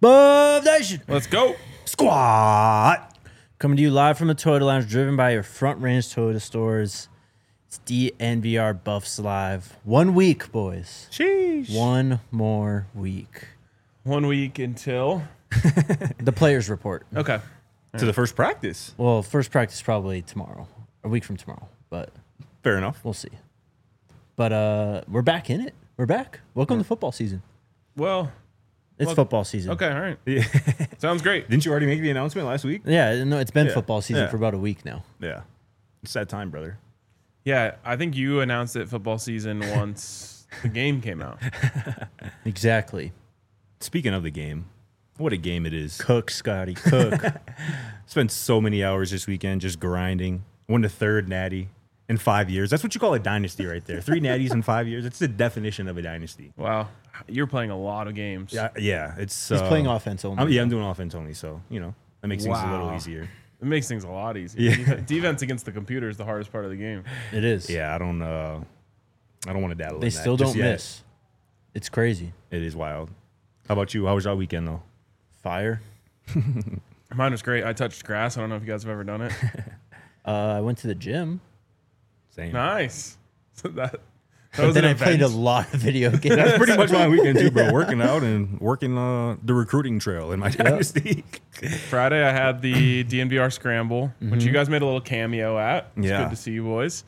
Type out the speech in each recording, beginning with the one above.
Buff Nation. Let's go. Squat. Coming to you live from the Toyota Lounge, driven by your Front Range Toyota stores. It's DNVR Buffs Live. 1 week, boys. Sheesh. One more week. 1 week until. The players report. Okay. To the first practice. Well, first practice probably tomorrow. A week from tomorrow, but Fair enough. we'll see. But we're back in it. We're back. Welcome to football season. Well, It's football season. okay. All right. Yeah. Sounds great. Didn't you already make the announcement last week? Yeah, no, it's been Yeah. football season Yeah. for about a week now. Yeah. It's that time, brother. Yeah, I think you announced it football season once the game came out. Exactly. Speaking of the game, what a game it is. Cook, Scotty, cook. Spent so many hours this weekend just grinding. Won the third natty in 5 years. That's what you call a dynasty right there. 3 natties in 5 years. It's the definition of a dynasty. Wow. You're playing a lot of games. Yeah. It's He's playing offense only. I'm doing offense only, so, that makes things a little Wow. easier. It makes things a lot easier. Yeah. Defense against the computer is the hardest part of the game. It is. Yeah, I don't want to dabble They in that still just don't yet. miss. It's crazy. It is wild. How about you? How was your weekend, though? Fire. Mine was great. I touched grass. I don't know if you guys have ever done it. I went to the gym. Same. Nice. So that But was then an I played a event. lot of video games. That's pretty much my weekend too, bro. Working out and working the recruiting trail in my dynasty. Friday, I had the DNVR Scramble, which you guys made a little cameo at. It's Yeah. good to see you boys.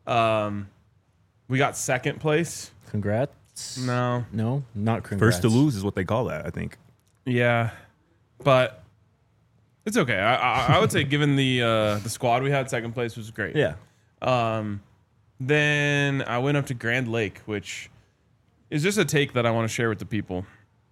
We got second place. Congrats. No. No, not congrats. First to lose is what they call that, I think. Yeah. But it's okay. I would say given the squad we had, second place was great. Yeah. Then I went up to Grand Lake, which is just a take that I want to share with the people.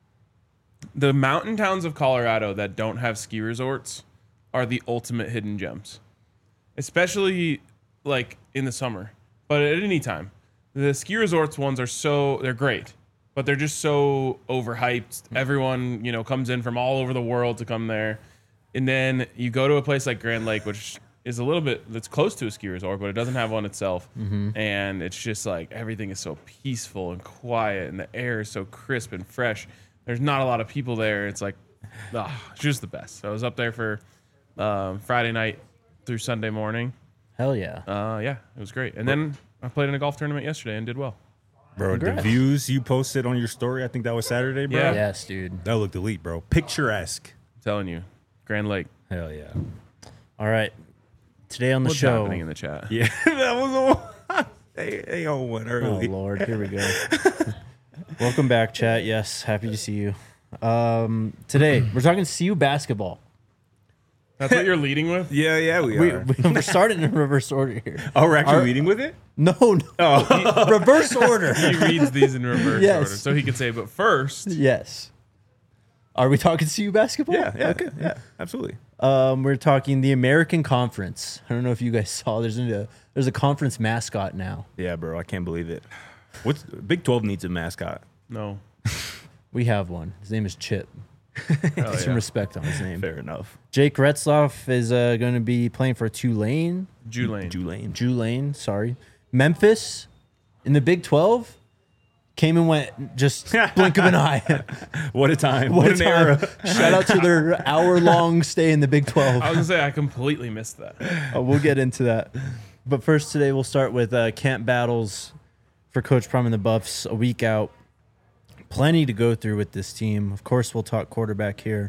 The mountain towns of Colorado that don't have ski resorts are the ultimate hidden gems, especially like in the summer, but at any time. The ski resorts ones they're great, but they're just so overhyped. Everyone, comes in from all over the world to come there. And then you go to a place like Grand Lake, which is a little bit, that's close to a ski resort, but it doesn't have one itself. And it's just like everything is so peaceful and quiet, and the air is so crisp and fresh. There's not a lot of people there. It's like, it's just the best. So I was up there for Friday night through Sunday morning. Hell yeah. Yeah, it was great. And then I played in a golf tournament yesterday and did well. Bro, Congrats. the views you posted on your story, I think that was Saturday, bro. Yeah. Yes, dude. That looked elite, bro. Picturesque. I'm telling you, Grand Lake. Hell yeah. All right. Today on the What's show. happening in the chat? Yeah, that was a one. They all went Oh, early. Lord. Here we go. Welcome back, chat. Yes, happy to see you. Today, we're talking CU basketball. That's what you're leading with? Yeah, We're starting in reverse order here. Oh, we're actually leading with it? No. Reverse order. He reads these in reverse Yes. order. So he could say, but first, Yes. Are we talking CU basketball? Yeah, Okay. yeah, absolutely. We're talking the American Conference. I don't know if you guys saw. There's a conference mascot now. Yeah, bro, I can't believe it. Big 12 needs a mascot. no. We have one. His name is Chip. Hell Get some yeah. respect on his name. Fair enough. Jake Retzloff is going to be playing for Tulane. Tulane. Sorry. Memphis in the Big 12 came and went just blink of an eye. What a time. What an a time. era. Shout out to their hour-long stay in the Big 12. I was going to say, I completely missed that. We'll get into that. But first today, we'll start with camp battles for Coach Prum and the Buffs a week out. Plenty to go through with this team. Of course, we'll talk quarterback here.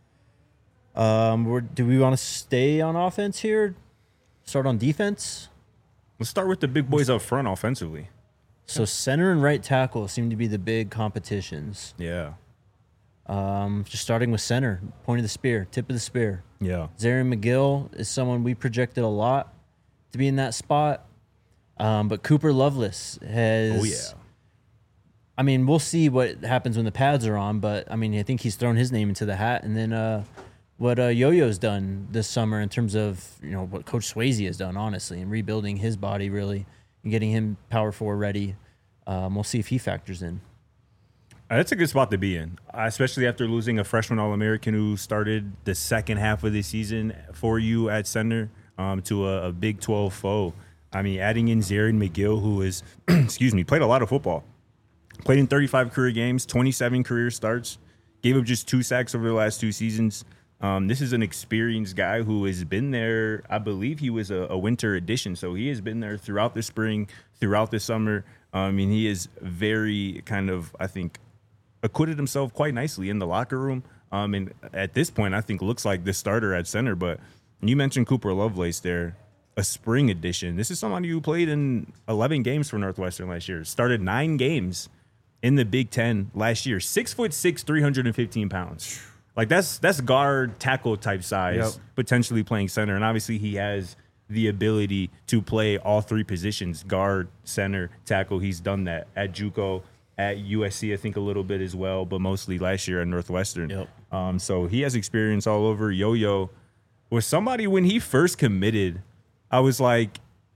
Do we want to stay on offense here? Start on defense? Let's start with the big boys up front offensively. So center and right tackle seem to be the big competitions. Yeah. Just starting with center, point of the spear, tip of the spear. Yeah. Zarian McGill is someone we projected a lot to be in that spot. But Cooper Lovelace has... Oh, yeah. I mean, we'll see what happens when the pads are on, but, I mean, I think he's thrown his name into the hat. And then what Yo-Yo's done this summer in terms of, what Coach Swayze has done, honestly, and rebuilding his body, really, and getting him Power 4 ready. We'll see if he factors in. That's a good spot to be in, especially after losing a freshman All-American who started the second half of the season for you at center to a Big 12 foe. I mean, adding in Zarian McGill, who is, played a lot of football. Played in 35 career games, 27 career starts. Gave up just 2 sacks over the last 2 seasons. This is an experienced guy who has been there. I believe he was a winter addition, so he has been there throughout the spring, throughout the summer. I mean, he is very kind of, I think, acquitted himself quite nicely in the locker room. And at this point, I think looks like the starter at center. But you mentioned Cooper Lovelace there, a spring addition. This is somebody who played in 11 games for Northwestern last year, started 9 games in the Big Ten last year. 6'6", 315 pounds. Like that's guard tackle type size, potentially playing center. And obviously he has the ability to play all 3 positions, guard, center, tackle. He's done that at JUCO, at USC, I think a little bit as well, but mostly last year at Northwestern. So he has experience all over. Yo-Yo was somebody when he first committed, I was like,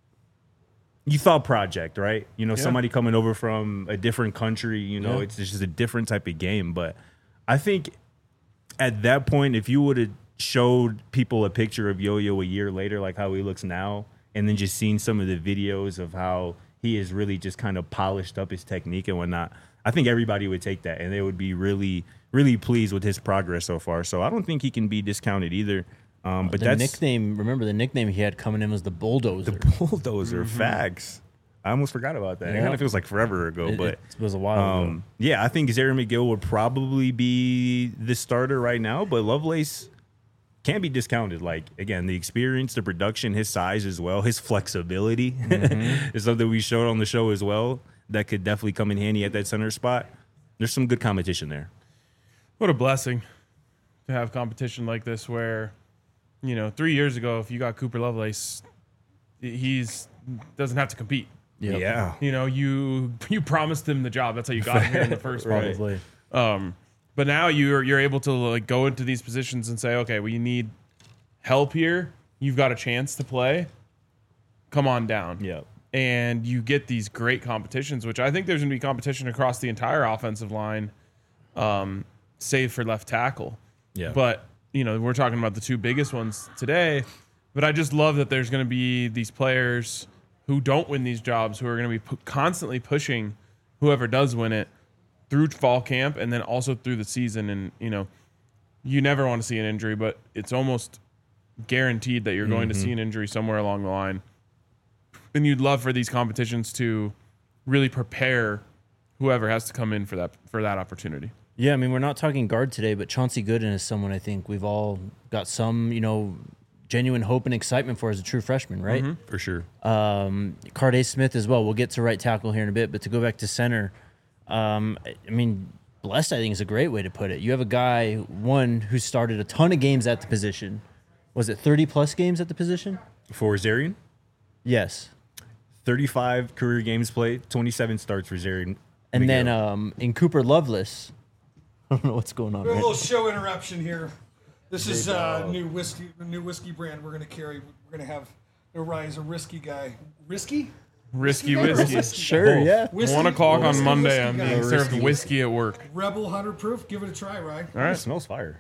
you thought project, right? You know, somebody coming over from a different country, you know, it's just a different type of game. But I think at that point, if you would have showed people a picture of Yo-Yo a year later, like how he looks now, and then just seen some of the videos of how he has really just kind of polished up his technique and whatnot, I think everybody would take that and they would be really, really pleased with his progress so far. So I don't think he can be discounted either. But the that's nickname. Remember the nickname he had coming in was the Bulldozer. the Bulldozer. Facts. I almost forgot about that. It kind of feels like forever ago, but it was a while ago. yeah, I think Zaire McGill would probably be the starter right now, but Lovelace can't be discounted. Like, again, the experience, the production, his size as well, his flexibility is something we showed on the show as well that could definitely come in handy at that center spot. There's some good competition there. What a blessing to have competition like this where, you know, 3 years ago, if you got Cooper Lovelace, he's doesn't have to compete. Yep. Yeah. You know, you promised him the job. That's how you got him here in the first place. Probably. But now you're able to like go into these positions and say, okay, well, you need help here. You've got a chance to play. Come on down. Yeah. And you get these great competitions, which I think there's going to be competition across the entire offensive line, save for left tackle. Yeah. But, you know, we're talking about the 2 biggest ones today. But I just love that there's going to be these players who don't win these jobs who are going to be constantly pushing whoever does win it through fall camp and then also through the season. And, you know, you never want to see an injury, but it's almost guaranteed that you're going to see an injury somewhere along the line. And you'd love for these competitions to really prepare whoever has to come in for that opportunity. Yeah, I mean, we're not talking guard today, but Chauncey Gooden is someone I think we've all got some, you know, genuine hope and excitement for as a true freshman, right? For sure. Carday Smith as well. We'll get to right tackle here in a bit, but to go back to center, I mean, blessed, I think, is a great way to put it. You have a guy, one, who started a ton of games at the position. Was it 30-plus games at the position? For Zarian, Yes. 35 career games played, 27 starts for Zarian. And then in Cooper Lovelace, I don't know what's going on. We have a Right? little show interruption here. This is new whiskey brand we're going to carry. We're going to have Ryan's a risky guy. Risky? Risky guy or whiskey. whiskey Sure, guy? yeah. Whiskey, 1 o'clock on whiskey, Monday, whiskey I'm guy. being served whiskey at work. Rebel 100 proof. Give it a try, Ryan. All right. It smells fire.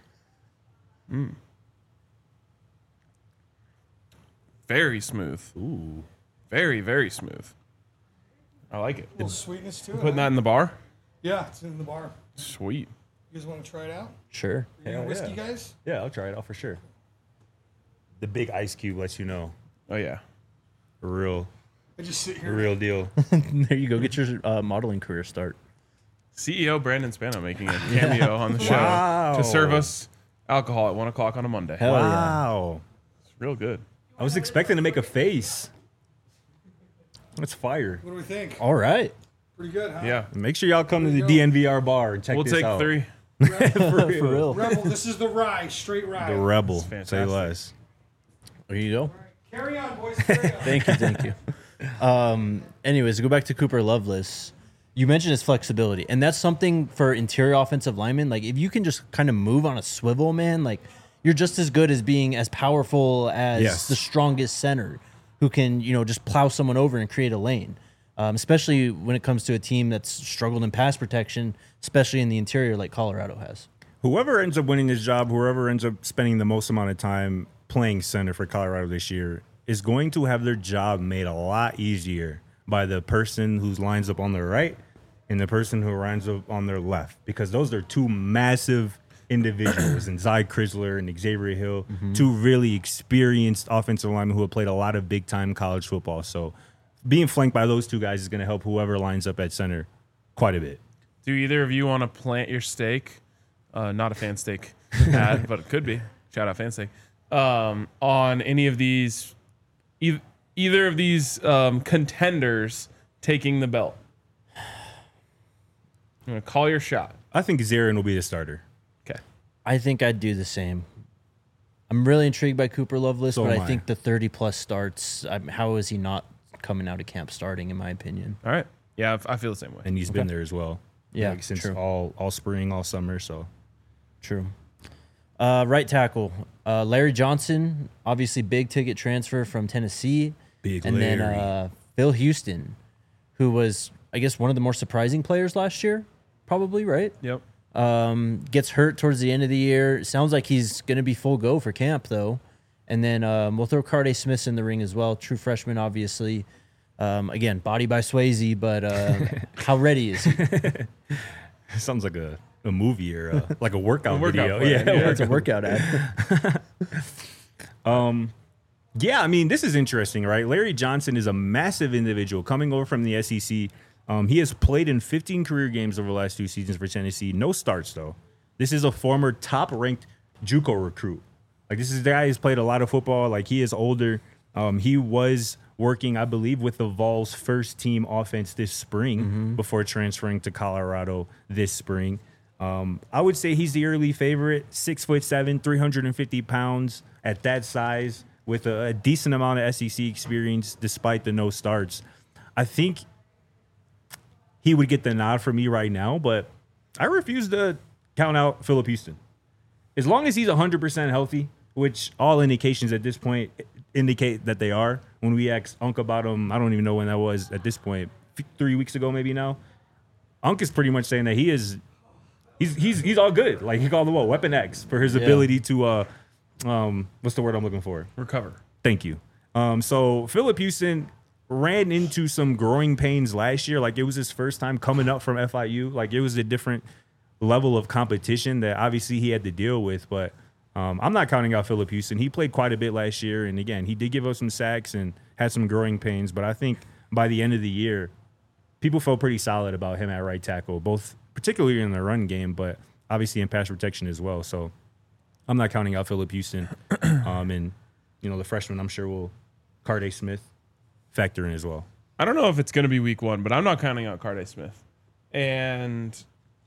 Very smooth. Ooh. Very, very smooth. I like it. A little sweetness to it. Putting huh? that in the bar? Yeah, it's in the bar. Sweet. You guys want to try it out? Sure. You Hell know whiskey, yeah. guys? Yeah, I'll try it out for sure. The big ice cube lets you know. Oh, yeah. A real I just sit a here. real deal. There you go. Get your modeling career start. CEO Brandon Spano making a cameo on the show Wow. to serve us alcohol at 1 o'clock on a Monday. Hell yeah. Wow. It's real good. I was expecting to make a face. That's fire. What do we think? All right. Pretty good, huh? Yeah. Make sure y'all come to the There you go. DNVR bar and check We'll this take out. 3. For real. Rebel, this is the rye, straight rye. The Rebel. That's Say fantastic. less. There you go. Carry on, boys. Carry on. Thank you. Anyways, to go back to Cooper Lovelace, you mentioned his flexibility, and that's something for interior offensive linemen. Like, if you can just kind of move on a swivel, man, like, you're just as good as being as powerful as Yes. the strongest center who can, you know, just plow someone over and create a lane. Especially when it comes to a team that's struggled in pass protection, especially in the interior like Colorado has. Whoever ends up winning this job, whoever ends up spending the most amount of time playing center for Colorado this year is going to have their job made a lot easier by the person who lines up on the right and the person who runs on their left, because those are two massive individuals, and Zy Chrysler and Xavier Hill, two really experienced offensive linemen who have played a lot of big-time college football. So being flanked by those two guys is going to help whoever lines up at center quite a bit. Do either of you want to plant your stake? Not a fan stake ad, but it could be. Shout out fan stake. On any of these, either of these contenders taking the belt? I'm going to call your shot. I think Zarin will be the starter. Okay. I think I'd do the same. I'm really intrigued by Cooper Lovelace, but I think the 30-plus starts, how is he not coming out of camp starting, in my opinion? All right. Yeah, I feel the same way. And he's been there as well. Yeah, like since true. all spring, all summer. So True. Right tackle, Larry Johnson, obviously big ticket transfer from Tennessee. Big and Larry. then Phil Houston, who was, I guess, one of the more surprising players last year, probably, right? Yep. Gets hurt towards the end of the year. Sounds like he's going to be full go for camp, though. And then we'll throw Carday Smith in the ring as well. True freshman, obviously. Again, body by Swayze, but how ready is he? sounds like a movie or like a workout video. plan, Yeah, It's a workout ad. Yeah, I mean, this is interesting, right? Larry Johnson is a massive individual coming over from the SEC. He has played in 15 career games over the last 2 seasons for Tennessee. No starts, though. This is a former top-ranked JUCO recruit. Like, this is the guy who's played a lot of football. Like, he is older. He was working, I believe, with the Vols' first-team offense this spring before transferring to Colorado this spring. I would say he's the early favorite, 6'7", 350 pounds at that size, with a decent amount of SEC experience despite the no starts. I think he would get the nod for me right now, but I refuse to count out Phillip Houston. As long as he's 100% healthy, which all indications at this point indicate that they are. When we asked Unc about him, I don't even know when that was at this point, 3 weeks ago maybe now. Unc is pretty much saying that he's all good. Like, he called him Weapon X for his ability to what's the word I'm looking for? Recover. Thank you. So Phillip Houston ran into some growing pains last year. Like, it was his first time coming up from FIU. Like, it was a different level of competition that obviously he had to deal with. But I'm not counting out Phillip Houston. He played quite a bit last year. And again, he did give us some sacks and had some growing pains. But I think by the end of the year, people felt pretty solid about him at right tackle, both particularly in the run game, but obviously in pass protection as well. So I'm not counting out Phillip Houston. And, you know, the freshman, I'm sure, will Carday Smith factor in as well. I don't know if it's going to be week 1, but I'm not counting out Carday Smith. And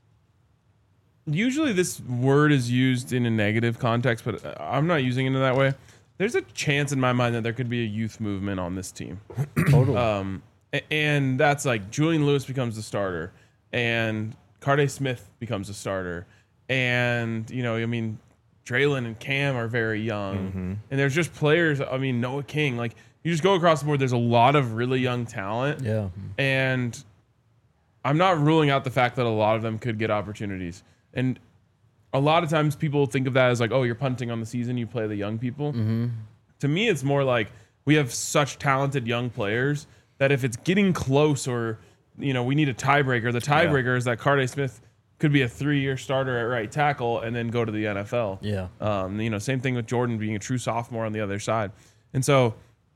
usually this word is used in a negative context, but I'm not using it in that way. There's a chance in my mind that there could be a youth movement on this team. Totally. And that's like Julian Lewis becomes the starter and Carday Smith becomes a starter. And, you know, I mean, Draylon and Cam are very young. And there's just players, I mean, Noah King, like, you just go across the board, there's a lot of really young talent. Yeah. And I'm not ruling out the fact that a lot of them could get opportunities. And a lot of times people think of that as like, oh, you're punting on the season, you play the young people. To me, it's more like we have such talented young players that if it's getting close or, you know, we need a tiebreaker, the tiebreaker is that Carday Smith could be a 3-year starter at right tackle and then go to the NFL. Yeah. You know, same thing with Jordan being a true sophomore on the other side. And so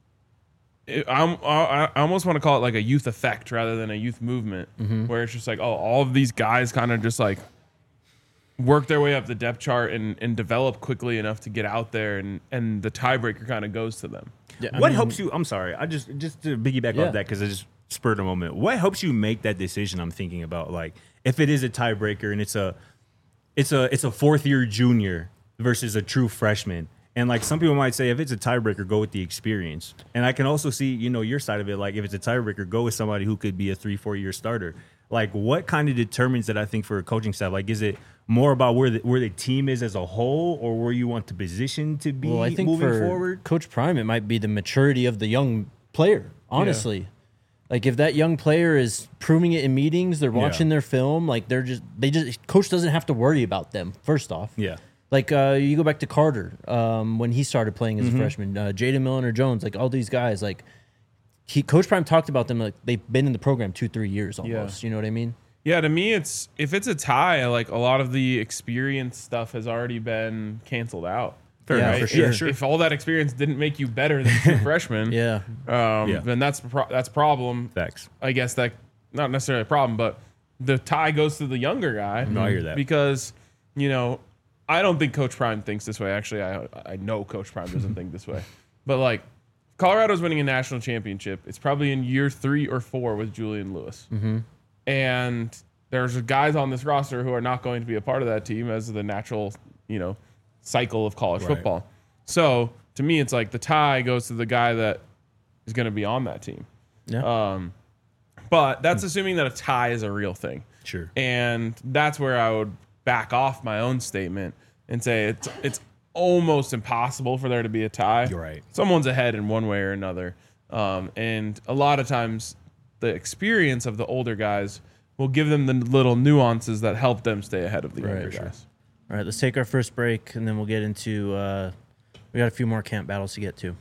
I almost want to call it like a youth effect rather than a youth movement, where it's just like, oh, all of these guys kind of just like work their way up the depth chart and develop quickly enough to get out there, and the tiebreaker kind of goes to them. Yeah, What helps you? I'm sorry. I just to piggyback Yeah. off that because I just spurred a moment. What helps you make that decision? I'm thinking about, like, if it is a tiebreaker and it's a 4th-year junior versus a true freshman. And, like, some people might say, if it's a tiebreaker, go with the experience. And I can also see, you know, your side of it. Like, if it's a tiebreaker, go with somebody who could be a 3-4 year starter. Like, what kind of determines that, I think, for a coaching staff? Like, is it more about where the team is as a whole, or where you want the position to be Well, I think moving for forward? Coach Prime, it might be the maturity of the young player, honestly. Like, if that young player is proving it in meetings, they're watching their film, like, coach doesn't have to worry about them, first off. Yeah. Like, you go back to Carter when he started playing as a freshman, Jaden Milner-Jones, like, all these guys, like, Coach Prime talked about them like they've been in the program 2-3 years almost. You know what I mean? Yeah, to me, if it's a tie, like a lot of the experience stuff has already been canceled out. Yeah, enough. for sure. If all that experience didn't make you better than true freshmen, Yeah. then that's a problem. Facts. I guess that not necessarily a problem, but the tie goes to the younger guy. No, I hear that. Because, I don't think Coach Prime thinks this way. Actually, I know Coach Prime doesn't think this way. But like, Colorado's winning a national championship. It's probably in year 3 or 4 with Julian Lewis. Mm-hmm. And there's guys on this roster who are not going to be a part of that team as the natural, cycle of college football. So to me, it's like the tie goes to the guy that is going to be on that team. Yeah. But that's assuming that a tie is a real thing. Sure. And that's where I would back off my own statement and say it's almost impossible for there to be a tie. You're right. Someone's ahead in one way or another. And a lot of times the experience of the older guys will give them the little nuances that help them stay ahead of the younger guys. All right, let's take our first break, and then we'll get into we got a few more camp battles to get to.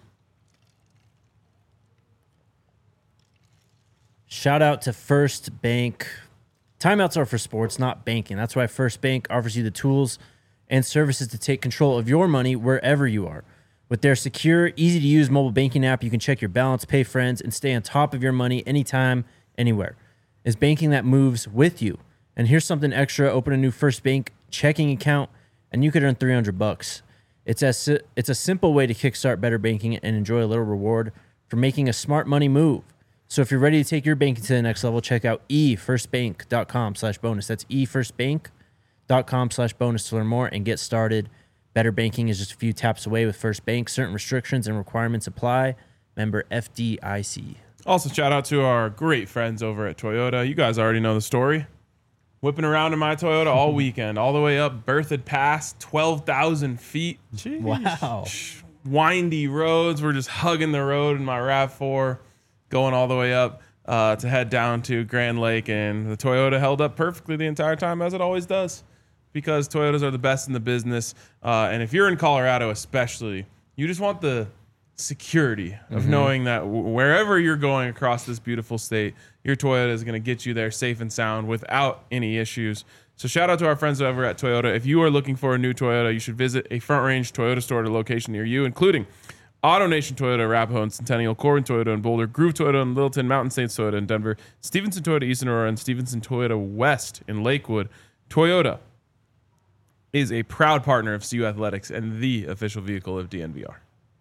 Shout out to First Bank. Timeouts are for sports, not banking. That's why First Bank offers you the tools and services to take control of your money wherever you are. With their secure, easy-to-use mobile banking app, you can check your balance, pay friends, and stay on top of your money anytime, anywhere. It's banking that moves with you. And here's something extra. Open a new First Bank checking account, and you could earn $300. It's a simple way to kickstart better banking and enjoy a little reward for making a smart money move. So if you're ready to take your banking to the next level, check out efirstbank.com/bonus. That's efirstbank.com/bonus to learn more and get started. Better banking is just a few taps away with First Bank. Certain restrictions and requirements apply. Member FDIC. Also, shout out to our great friends over at Toyota. You guys already know the story. Whipping around in my Toyota all weekend, all the way up Berthoud Pass, 12,000 feet. Jeez. Wow. Windy roads. We're just hugging the road in my RAV4, going all the way up to head down to Grand Lake. And the Toyota held up perfectly the entire time, as it always does, because Toyotas are the best in the business. And if you're in Colorado especially, you just want the security of knowing that wherever you're going across this beautiful state, your Toyota is going to get you there safe and sound without any issues. So shout out to our friends over at Toyota. If you are looking for a new Toyota, you should visit a Front Range Toyota store at a location near you, including AutoNation Toyota, Arapahoe and Centennial, Corbin Toyota in Boulder, Groove Toyota in Littleton, Mountain States Toyota in Denver, Stevenson Toyota East Aurora, and Stevenson Toyota West in Lakewood. Toyota is a proud partner of CU Athletics and the official vehicle of DNVR.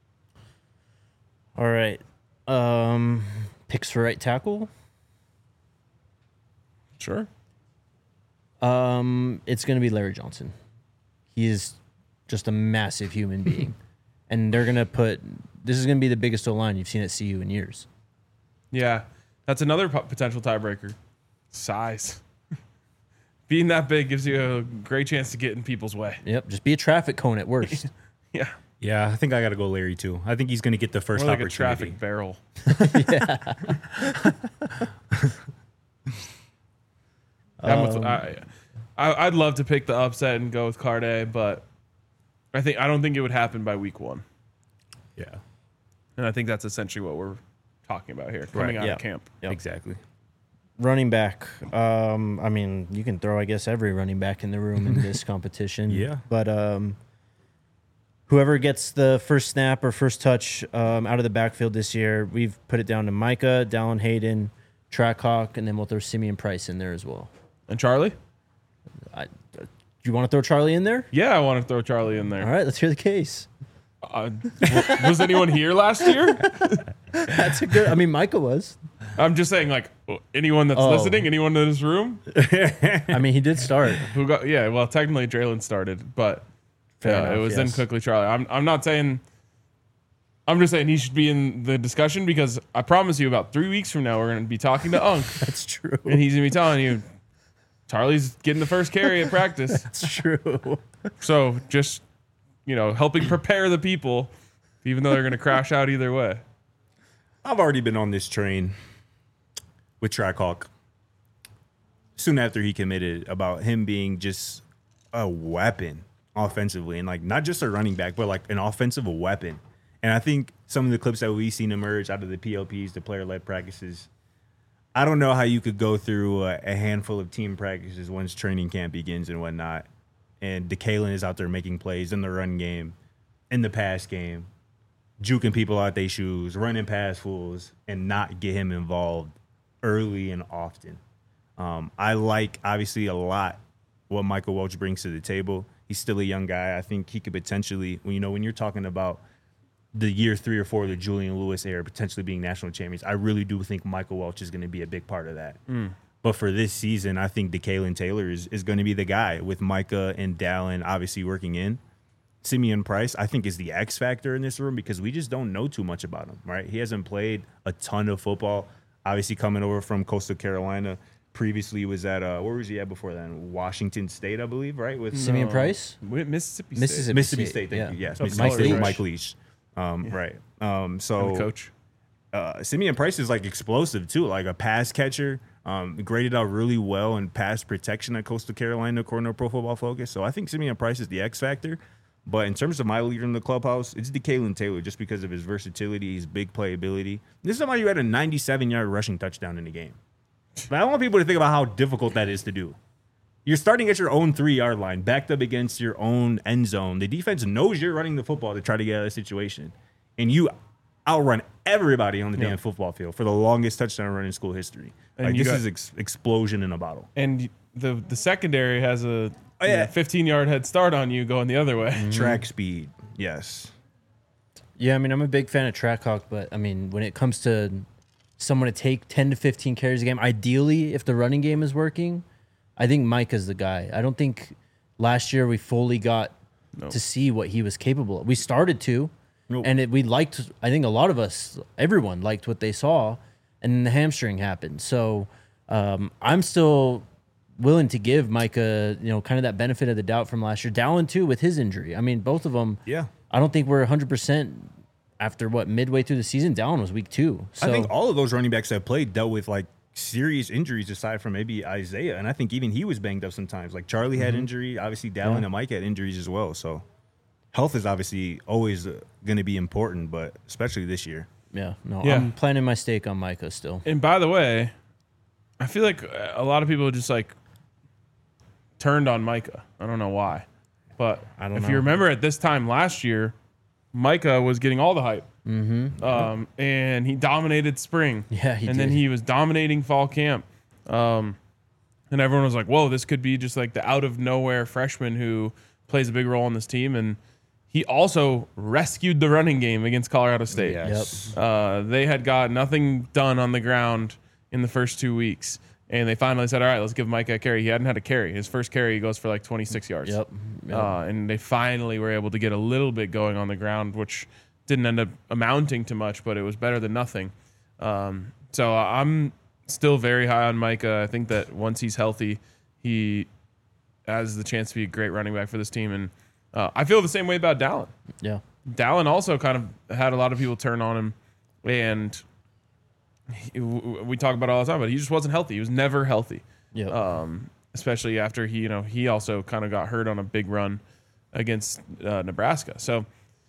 All right. Picks for right tackle. Sure. It's going to be Larry Johnson. He is just a massive human being. And they're going to this is going to be the biggest O-line you've seen at CU in years. Yeah, that's another potential tiebreaker. Size. Being that big gives you a great chance to get in people's way. Yep, just be a traffic cone at worst. Yeah. Yeah, I think I got to go Larry too. I think he's going to get the first More like a opportunity. traffic barrel. I'd love to pick the upset and go with Carde, but I don't think it would happen by week 1. Yeah, And I think that's essentially what we're talking about here, coming out yeah. of camp. Yep. exactly. Running back. I mean, you can throw, I guess, every running back in the room in this competition. Yeah. But whoever gets the first snap or first touch out of the backfield this year, we've put it down to Micah, Dallin Hayden, Trackhawk, and then we'll throw Simeon Price in there as well. And Charlie? Do you want to throw Charlie in there? Yeah, I want to throw Charlie in there. All right, let's hear the case. Was anyone here last year? That's a good. I mean, Micah was. I'm just saying, like, anyone that's listening, anyone in this room I mean, he did start. who got, yeah, well, technically Draylen started, but Fair it enough, was then yes. quickly Charlie. I'm not saying, I'm just saying he should be in the discussion because I promise you about 3 weeks from now, we're going to be talking to Unk That's true. and he's going to be telling you, Charlie's getting the first carry at practice. That's true. So just, helping prepare the people, even though they're going to crash out either way. I've already been on this train with Trackhawk soon after he committed about him being just a weapon offensively and like not just a running back, but like an offensive weapon. And I think some of the clips that we've seen emerge out of the PLPs, the player-led practices, I don't know how you could go through a handful of team practices once training camp begins and whatnot, and DeKalen is out there making plays in the run game, in the pass game, juking people out their shoes, running past fools, and not get him involved early and often. I like, obviously, a lot what Michael Welch brings to the table. He's still a young guy. I think he could potentially, when you're talking about the year 3 or 4 of the Julian Lewis era potentially being national champions, I really do think Michael Welch is going to be a big part of that. But for this season, I think DeKalen Taylor is going to be the guy with Micah and Dallin obviously working in. Simeon Price, I think, is the X factor in this room because we just don't know too much about him, right? He hasn't played a ton of football. Obviously coming over from Coastal Carolina. Previously was at, where was he at before then? Washington State, I believe, right? With Simeon Price? Mississippi State. Mississippi State, thank you. Yes, So Mississippi Mike State, Leach. Mike Leach. Right. So And the coach. Simeon Price is like explosive too, like a pass catcher. Graded out really well in pass protection at Coastal Carolina, according to Pro Football Focus. So I think Simeon Price is the X factor. But in terms of my leader in the clubhouse, it's DeKalen Taylor just because of his versatility, his big playability. This is somebody who had a 97-yard rushing touchdown in the game. But I want people to think about how difficult that is to do. You're starting at your own 3-yard line, backed up against your own end zone. The defense knows you're running the football to try to get out of the situation. And you outrun everybody on the damn football field for the longest touchdown run in school history. And Like, you this got- is explosion in a bottle. And the secondary has a Oh, yeah. 15-yard head start on you going the other way. Track speed, yes. Yeah, I mean, I'm a big fan of Trackhawk, but I mean, when it comes to someone to take 10 to 15 carries a game, ideally, if the running game is working, I think Mike is the guy. I don't think last year we fully got to see what he was capable of. We started to, Nope. and we liked, I think a lot of us, everyone liked what they saw, and then the hamstring happened. So I'm still willing to give Micah, kind of that benefit of the doubt from last year. Dallin, too, with his injury. I mean, both of them, Yeah. I don't think we're 100% after midway through the season. Dallin was week 2. So I think all of those running backs that played dealt with like serious injuries aside from maybe Isaiah. And I think even he was banged up sometimes. Like Charlie had injury. Obviously, Dallin and Mike had injuries as well. So health is obviously always going to be important, but especially this year. Yeah, no, Yeah. I'm planting my stake on Micah still. And by the way, I feel like a lot of people just like turned on Micah. I don't know why. But I don't if know. you remember at this time last year, Micah was getting all the hype. And he dominated spring. Yeah, he And then did. he was dominating fall camp. And everyone was like, whoa, this could be just like the out of nowhere freshman who plays a big role on this team. And he also rescued the running game against Colorado State. Yes. They had got nothing done on the ground in the first 2 weeks. And they finally said, all right, let's give Micah a carry. He hadn't had a carry. His first carry goes for like 26 yards. Yep. And they finally were able to get a little bit going on the ground, which didn't end up amounting to much, but it was better than nothing. So I'm still very high on Micah. I think that once he's healthy, he has the chance to be a great running back for this team. And I feel the same way about Dallin. Yeah. Dallin also kind of had a lot of people turn on him, and we talk about it all the time, but he just wasn't healthy. He was never healthy. Yep. Especially after he also kind of got hurt on a big run against Nebraska. So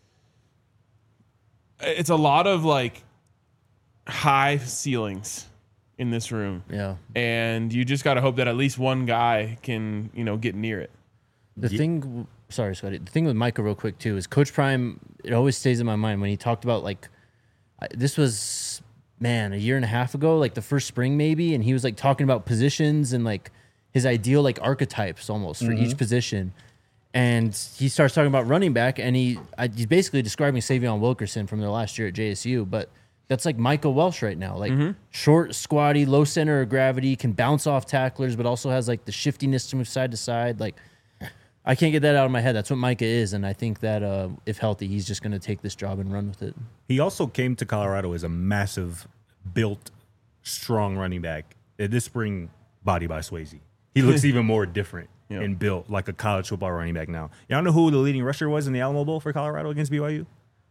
it's a lot of like high ceilings in this room, Yeah. and you just got to hope that at least one guy can get near it. The thing, sorry, Scotty. The thing with Micah, real quick too, is Coach Prime. It always stays in my mind when he talked about this was a year and a half ago, like the first spring maybe, and he was like talking about positions and like his ideal like archetypes almost for each position. And he starts talking about running back, and he's basically describing Savion Wilkerson from their last year at JSU, but that's like Micah Welsh right now, like short, squatty, low center of gravity, can bounce off tacklers, but also has like the shiftiness to move side to side. Like, I can't get that out of my head. That's what Micah is, and I think that if healthy, he's just going to take this job and run with it. He also came to Colorado as a massive, built, strong running back. This spring, body by Swayze. He looks even more different and built like a college football running back now. Y'all know who the leading rusher was in the Alamo Bowl for Colorado against BYU?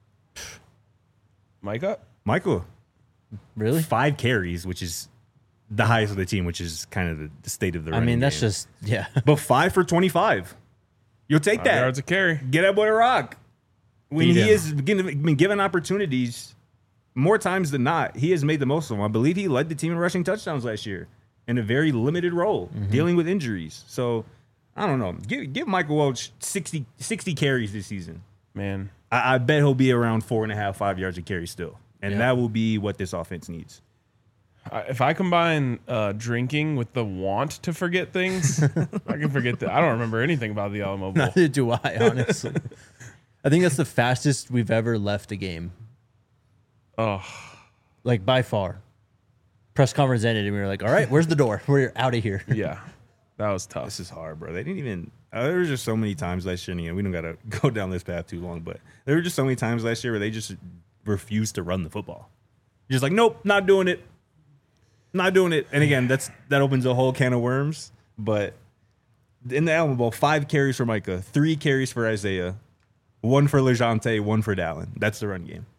Micah? Michael. Really? 5 carries, which is the highest of the team, which is kind of the state of the I running mean, that's game. just, yeah. But 5 for 25. You'll take 5 that. yards a carry. Get that boy to rock. When Feed he him. has been given opportunities more times than not, he has made the most of them. I believe he led the team in rushing touchdowns last year in a very limited role, dealing with injuries. So, I don't know. Give Michael Welch 60 carries this season. Man. I bet he'll be around 4.5, 5 yards a carry still. And that will be what this offense needs. If I combine drinking with the want to forget things, I can forget that. I don't remember anything about the Alamo Bowl. Neither do I, honestly. I think that's the fastest we've ever left a game. Oh, Like, by far. Press conference ended, and we were like, all right, where's the door? We're out of here. yeah. That was tough. This is hard, bro. They didn't even. There was just so many times last year, and we don't got to go down this path too long, but there were just so many times last year where they just refused to run the football. Just like, nope, not doing it. Not doing it. And again, that opens a whole can of worms. But in the Alamo Bowl, 5 carries for Micah, 3 carries for Isaiah, 1 for LeJounte, 1 for Dallin. That's the run game.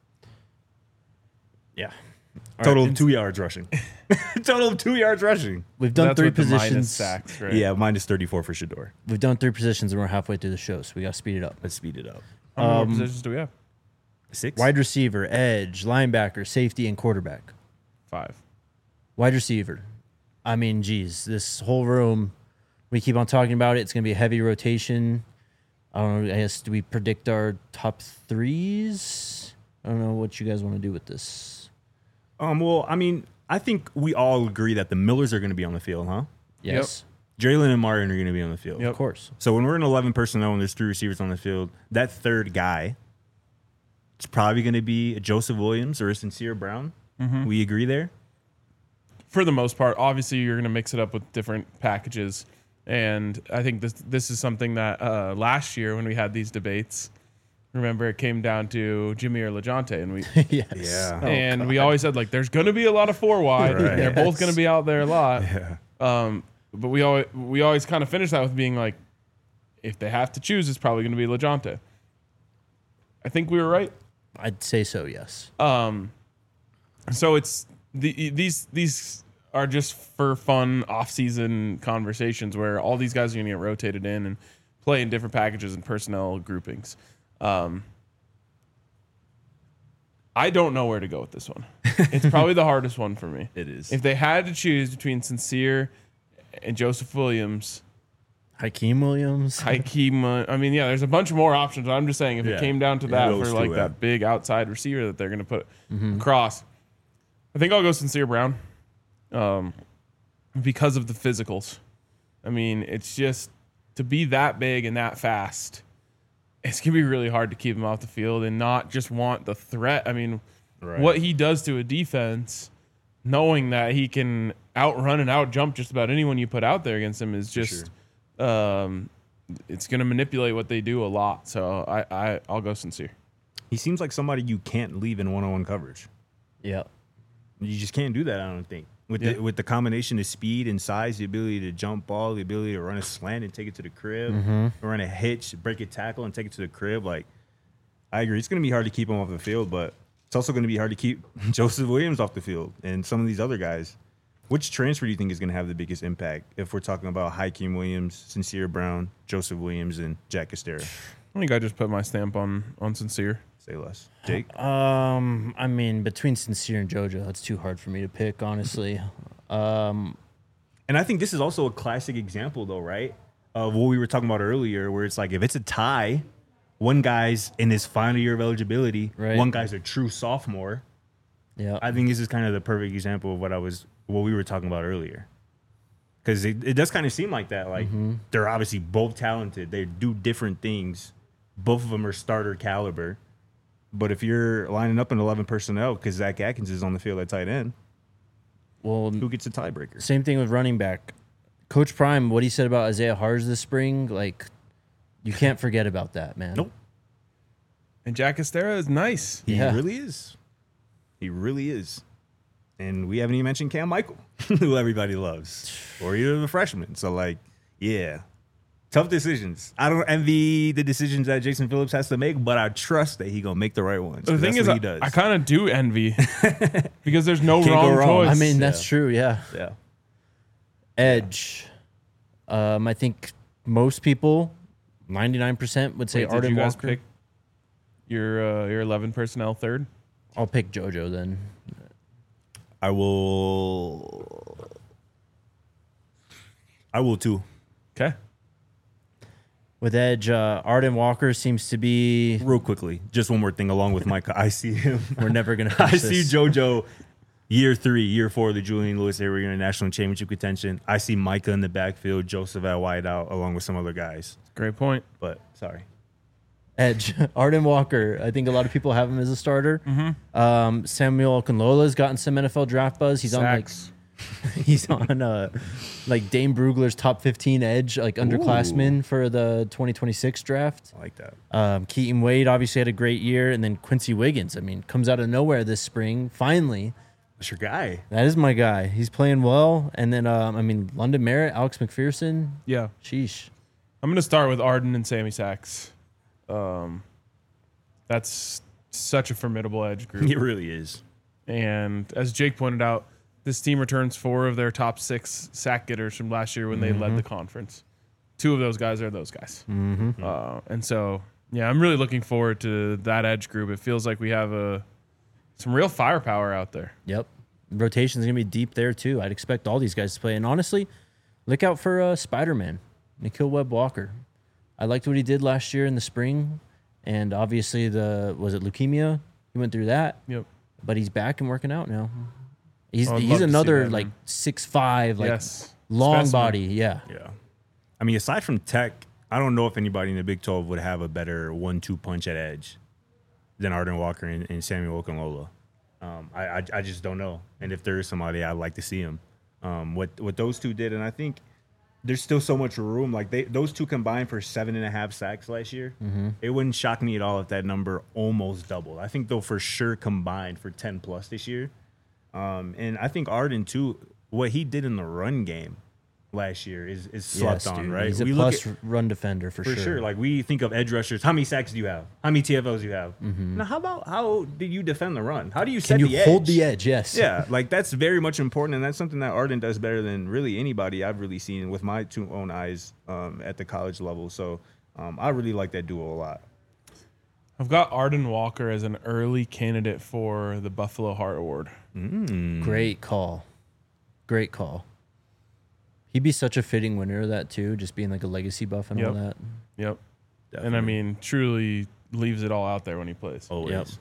Yeah. Total of 2 yards rushing. Total of 2 yards rushing. We've done That's 3 with the minus positions. sacks, right? Yeah, minus 34 for Shador. We've done 3 positions, and we're halfway through the show, so we got to speed it up. Let's speed it up. How many more positions do we have? 6? Wide receiver, edge, linebacker, safety, and quarterback. 5. Wide receiver. I mean, geez, this whole room, we keep on talking about it. It's going to be a heavy rotation. I don't know. I guess, do we predict our top 3s? I don't know what you guys want to do with this. Well, I mean, I think we all agree that the Millers are going to be on the field, huh? Yes, Jalen and Martin are going to be on the field. Yep. of course. So when we're in 11 personnel and there's 3 receivers on the field, that third guy, it's probably going to be a Joseph Williams or a Sincere Brown. We agree there? For the most part, obviously you're going to mix it up with different packages. And I think this is something that last year when we had these debates, remember it came down to Jimmy or LeJounte, and we Yes. Yeah. and we always said like there's going to be a lot of 4 wide. Right. They're both going to be out there a lot. Yeah. But we always kind of finish that with being like, if they have to choose, it's probably going to be LeJounte. I think we were right. I'd say so, yes. So it's these are just for fun off-season conversations where all these guys are going to get rotated in and play in different packages and personnel groupings. I don't know where to go with this one. It's probably the hardest one for me. It is. If they had to choose between Sincere and Joseph Williams, Hakeem Williams. Hakeem, I mean, yeah, there's a bunch more options. I'm just saying if Yeah. it came down to Yeah, that those for two, like yeah. that big outside receiver that they're going to put across, I think I'll go Sincere Brown because of the physicals. I mean, it's just to be that big and that fast, it's going to be really hard to keep him off the field and not just want the threat. I mean, Right. what he does to a defense, knowing that he can outrun and outjump just about anyone you put out there against him is just it's going to manipulate what they do a lot. So I'll go Sincere. He seems like somebody you can't leave in one-on-one coverage. Yeah. You just can't do that, I don't think. Yeah. With the combination of speed and size, the ability to jump ball, the ability to run a slant and take it to the crib, run a hitch, break a tackle and take it to the crib. Like, I agree. It's going to be hard to keep him off the field, but it's also going to be hard to keep Joseph Williams off the field and some of these other guys. Which transfer do you think is going to have the biggest impact if we're talking about Hakeem Williams, Sincere Brown, Joseph Williams, and Jack Castera? I think I just put my stamp on Sincere. Say less. Jake? I mean, between Sincere and JoJo, it's too hard for me to pick, honestly. And I think this is also a classic example, though, right? Of what we were talking about earlier, where it's like if it's a tie, one guy's in his final year of eligibility, Right. one guy's a true sophomore. Yeah. I think this is kind of the perfect example of what we were talking about earlier. Because it does kind of seem like that. Like they're obviously both talented. They do different things. Both of them are starter caliber. But if you're lining up in 11 personnel because Zach Atkins is on the field at tight end, Well, who gets a tiebreaker? same thing with running back. Coach Prime, what he said about Isaiah Harz this spring, like, you can't forget about that, man. Nope. And Jack Castera is nice. He Yeah. really is. He really is. And we haven't even mentioned Cam Michael, who everybody loves, or either the freshman. So, like, yeah. Tough decisions. I don't envy the decisions that Jason Phillips has to make, but I trust that he gonna make the right ones. The thing That's is, what he does. I kind of do envy because there's no Can't go wrong wrong. choice. I mean, that's true, yeah. yeah. Edge. I think most people, 99%, would say Wait, did Arden you guys Walker. pick your 11 personnel third? I'll pick JoJo then. I will too. Okay. With edge, Arden Walker seems to be. Real quickly, just one more thing along with Micah. I see him. We're never gonna. I finish see this. JoJo year 3, year 4 of the Julian Lewis area in national championship contention. I see Micah in the backfield, Joseph at wide out, along with some other guys. Great point. But sorry. Edge, Arden Walker. I think a lot of people have him as a starter. Samuel Okunlola's gotten some NFL draft buzz. He's Sacks. he's on like Dane Brugler's top 15 edge, like underclassmen for the 2026 draft. I like that. Keaton Wade obviously had a great year, and then Quincy Wiggins. I mean, comes out of nowhere this spring. Finally, That's your guy. that is my guy. He's playing well. And then I mean, London Merritt, Alex McPherson. Yeah. Sheesh. I'm going to start with Arden and Sammy Sachs. That's such a formidable edge group. He really is. And as Jake pointed out, this team returns 4 of their top 6 sack getters from last year when they led the conference. 2 of those guys are those guys. And so, yeah, I'm really looking forward to that edge group. It feels like we have some real firepower out there. Yep. Rotation's going to be deep there, too. I'd expect all these guys to play. And honestly, look out for Spider-Man, Nikhil Webb-Walker. I liked what he did last year in the spring. And obviously, was it leukemia? He went through that. Yep. But he's back and working out now. He's I'd love to see another, that, like, man. 6'5", like, Yes. long Specimen. body. Yeah. Yeah. I mean, aside from Tech, I don't know if anybody in the Big 12 would have a better 1-2 punch at edge than Arden Walker and Samuel Okunlola. I just don't know. And if there is somebody, I'd like to see him. What those two did, and I think there's still so much room. Like those two combined for 7.5 sacks last year. It wouldn't shock me at all if that number almost doubled. I think they'll for sure combine for 10 plus this year. And I think Arden too. What he did in the run game last year is slept on, dude. right? He's a We look plus at- run defender for sure. Like we think of edge rushers. How many sacks do you have? How many TFLs do you have? Now, how do you defend the run? How do you set Can you the hold edge? the edge? Yes. Yeah, like that's very much important, and that's something that Arden does better than really anybody I've really seen with my two own eyes at the college level. So I really like that duo a lot. I've got Arden Walker as an early candidate for the Buffalo Heart Award. Great call. Great call. He'd be such a fitting winner of that too, just being like a legacy buff and all that. Yep. Definitely. And I mean, truly leaves it all out there when he plays. Always. Yep.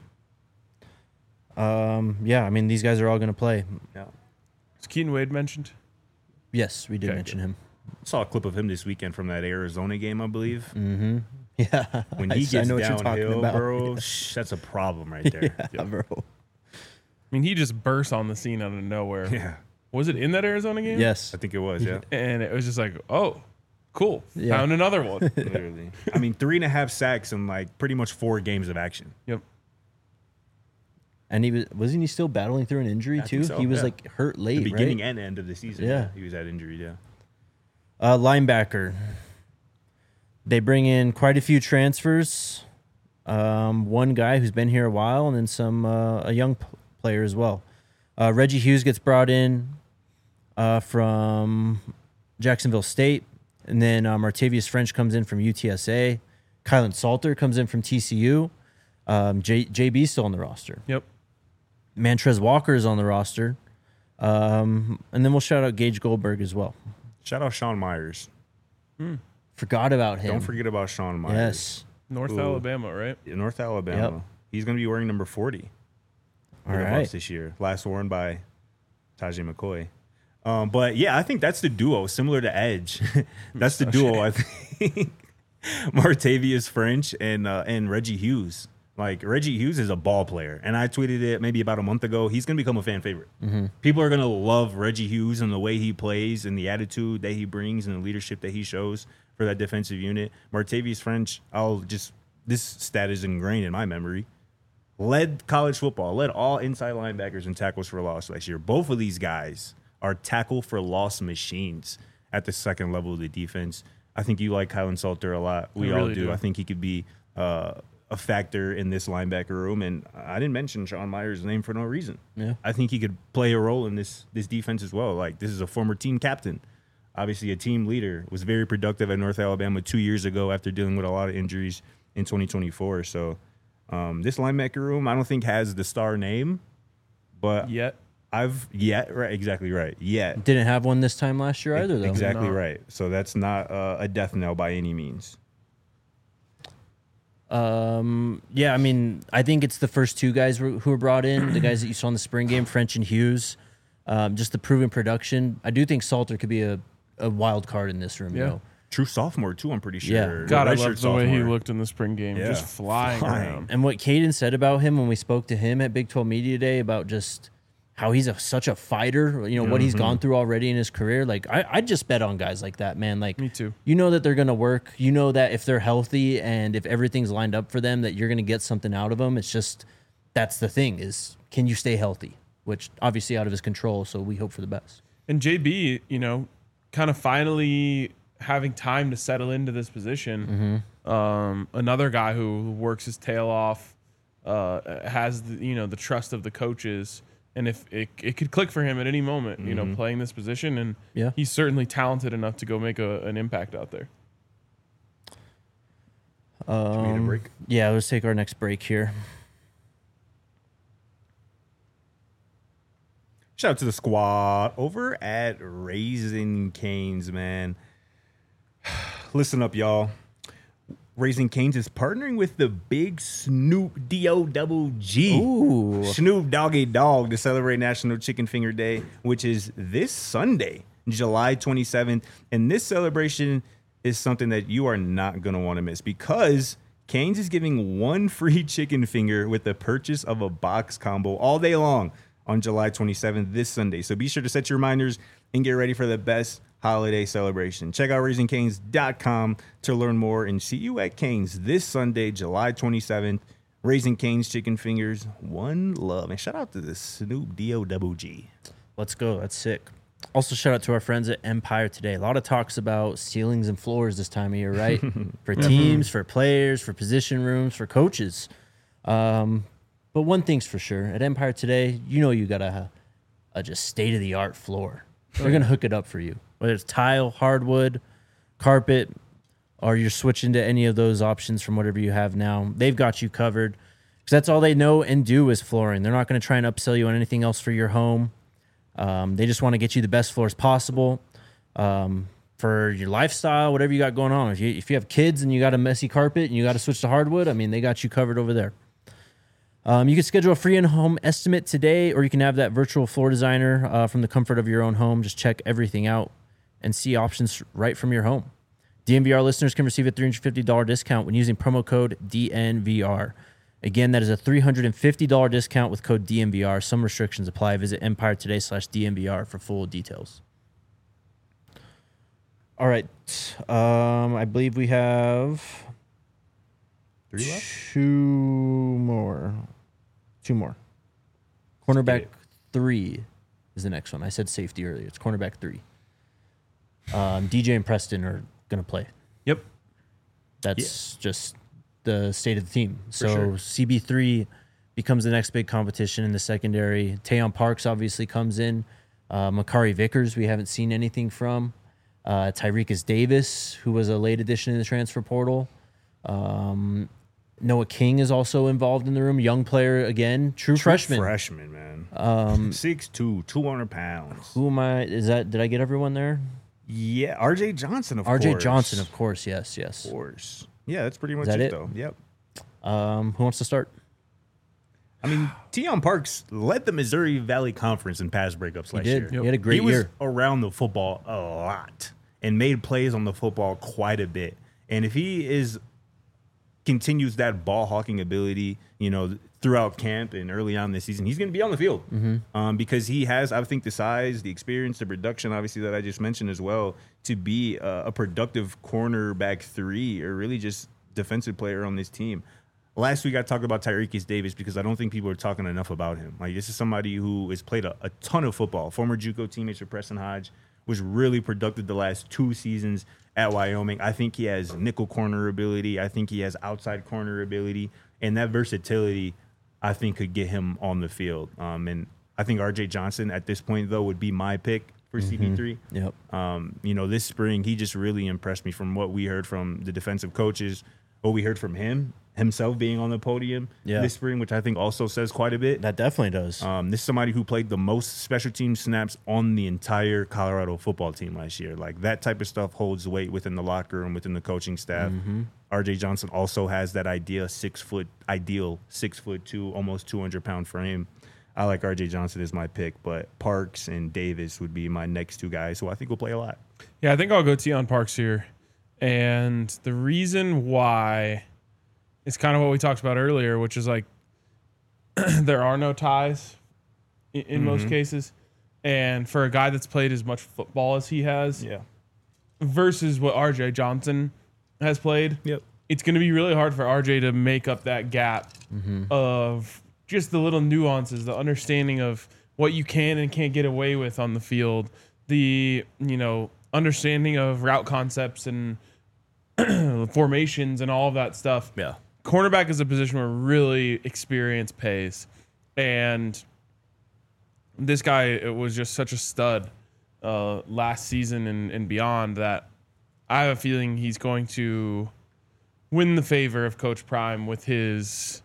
Yeah, I mean these guys are all going to play. Yeah. Is Keaton Wade mentioned? Yes, we did Okay, mention him. Saw a clip of him this weekend from that Arizona game, I believe. Yeah, When he I gets know what you're talking downhill, about. bro, that's a problem right there. Yeah, bro. I mean, he just burst on the scene out of nowhere. Yeah, Was it in that Arizona game? Yes. I think it was. Yeah. And it was just like, oh, cool. Yeah. Found another one. Literally. I mean, 3.5 sacks in like pretty much 4 games of action. Yep. And wasn't he still battling through an injury I too? think so, He was yeah. like hurt late, The beginning right? and end of the season. Yeah. He was at injury. Yeah. Linebacker. They bring in quite a few transfers. One guy who's been here a while, and then a young player as well. Reggie Hughes gets brought in from Jacksonville State, and then Martavius French comes in from UTSA. Kylan Salter comes in from TCU. JB's still on the roster. Yep. Mantrez Walker is on the roster. And then we'll shout out Gage Goldberg as well. Shout out Sean Myers. Forgot about him. Don't forget about Sean Myers. Yes. North Ooh. Alabama, right? North Alabama. Yep. He's going to be wearing number 40 All for the right. Buffs this year. Last worn by Tajay McCoy. But yeah, I think that's the duo, similar to Edge. That's the duo, I think. Martavius French and Reggie Hughes. Like, Reggie Hughes is a ball player. And I tweeted it maybe about a month ago. He's going to become a fan favorite. People are going to love Reggie Hughes and the way he plays and the attitude that he brings and the leadership that he shows for that defensive unit. Martavius French, this stat is ingrained in my memory. Led college football, led all inside linebackers and tackles for loss last year. Both of these guys are tackle for loss machines at the second level of the defense. I think you like Kylan Salter a lot. We I all really do. do. I think he could be a factor in this linebacker room. And I didn't mention Sean Myers' name for no reason. Yeah. I think he could play a role in this defense as well. Like, this is a former team captain, obviously a team leader, was very productive at North Alabama 2 years ago after dealing with a lot of injuries in 2024. So This linebacker room, I don't think has the star name, but Yet. exactly right. Yet. Didn't have one this time last year either, though. Exactly No. right. So that's not a death knell by any means. Yeah, I mean, I think it's the first two guys who were brought in, the guys that you saw in the spring game, French and Hughes. Just the proven production. I do think Salter could be a wild card in this room. Yeah. You know? True sophomore too, I'm pretty sure. Yeah. God, I Redshirt love the way he sophomore. looked in the spring game. Yeah. Just flying around. And what Caden said about him when we spoke to him at Big 12 Media Day about just how he's such a fighter, you know, what he's gone through already in his career. Like, I'd just bet on guys like that, man. Like, Me too. You know that they're going to work. You know that if they're healthy and if everything's lined up for them, that you're going to get something out of them. It's just, that's the thing is, can you stay healthy? Which obviously out of his control, so we hope for the best. And JB, you know, kind of finally having time to settle into this position. Another guy who works his tail off, has the trust of the coaches, and if it could click for him at any moment, you know, playing this position, and Yeah. he's certainly talented enough to go make an impact out there. Should we need a break? Yeah, let's take our next break here. Shout out to the squad over at Raising Cane's, man. Listen up, y'all. Raising Cane's is partnering with the big Snoop D-O-double-G. Ooh. Snoop Doggy Dogg to celebrate National Chicken Finger Day, which is this Sunday, July 27th. And this celebration is something that you are not going to want to miss because Cane's is giving one free chicken finger with the purchase of a box combo all day long on July 27th, this Sunday. So be sure to set your reminders and get ready for the best holiday celebration. Check out RaisingCanes.com to learn more and see you at Cane's this Sunday, July 27th. Raising Cane's Chicken Fingers, one love. And shout out to the Snoop D-O-double-G. Let's go. That's sick. Also, shout out to our friends at Empire Today. A lot of talks about ceilings and floors this time of year, right? For teams, for players, for position rooms, for coaches. But one thing's for sure. At Empire Today, you know you got a just state-of-the-art floor. They're going to hook it up for you. Whether it's tile, hardwood, carpet, or you're switching to any of those options from whatever you have now, they've got you covered. Because that's all they know and do is flooring. They're not going to try and upsell you on anything else for your home. They just want to get you the best floors possible for your lifestyle, whatever you got going on. If you have kids and you got a messy carpet and you got to switch to hardwood, I mean, they got you covered over there. You can schedule a free in-home estimate today, or you can have that virtual floor designer from the comfort of your own home. Just check everything out and see options right from your home. DNVR listeners can receive a $350 discount when using promo code DNVR. Again, that is a $350 discount with code DNVR. Some restrictions apply. Visit EmpireToday.com/DNVR for full details. All right. I believe we have 3 left? two more. Cornerback 3 is the next one. I said safety earlier. It's cornerback 3. DJ and Preston are going to play. Yep. That's just the state of the team. So sure. CB3 becomes the next big competition in the secondary. Tayon Parks obviously comes in. Makari Vickers, we haven't seen anything from. Tyrekus Davis, who was a late addition in the transfer portal. Noah King is also involved in the room. Young player again. True freshman. Freshman, man. 6'2", 200 pounds. Who am I? Did I get everyone there? Yeah, RJ Johnson, of course. RJ Johnson, of course. Yes. Of course. Yeah, that's pretty much that it, it? though. Yep. Who wants to start? I mean, Tayon Parks led the Missouri Valley Conference in pass breakups last did. year. He had a great he was year. around the football a lot and made plays on the football quite a bit. And if he continues that ball hawking ability, throughout camp and early on this season, he's going to be on the field because he has, I think, the size, the experience, the production, obviously, that I just mentioned as well, to be a productive cornerback 3 or really just defensive player on this team. Last week, I talked about Tyrekus Davis because I don't think people are talking enough about him. Like, this is somebody who has played a ton of football. Former JUCO teammate for Preston Hodge, was really productive the last 2 seasons at Wyoming. I think he has nickel corner ability. I think he has outside corner ability. And that versatility, I think, could get him on the field. And I think RJ Johnson at this point, though, would be my pick for CB3. Yep. This spring, he just really impressed me from what we heard from the defensive coaches, what we heard from him, himself being on the podium this spring, which I think also says quite a bit. That definitely does. This is somebody who played the most special team snaps on the entire Colorado football team last year. Like, that type of stuff holds weight within the locker room, within the coaching staff. RJ Johnson also has that ideal 6'2", almost 200-pound frame. I like RJ Johnson as my pick, but Parks and Davis would be my next two guys who I think will play a lot. Yeah, I think I'll go Tion Parks here. And the reason why is kind of what we talked about earlier, which is like there are no ties in most cases. And for a guy that's played as much football as he has versus what RJ Johnson has played, it's going to be really hard for RJ to make up that gap of just the little nuances, the understanding of what you can and can't get away with on the field, the, understanding of route concepts and formations and all of that stuff. Yeah. Cornerback is a position where really experience pays. And this guy was just such a stud last season and beyond that I have a feeling he's going to win the favor of Coach Prime with his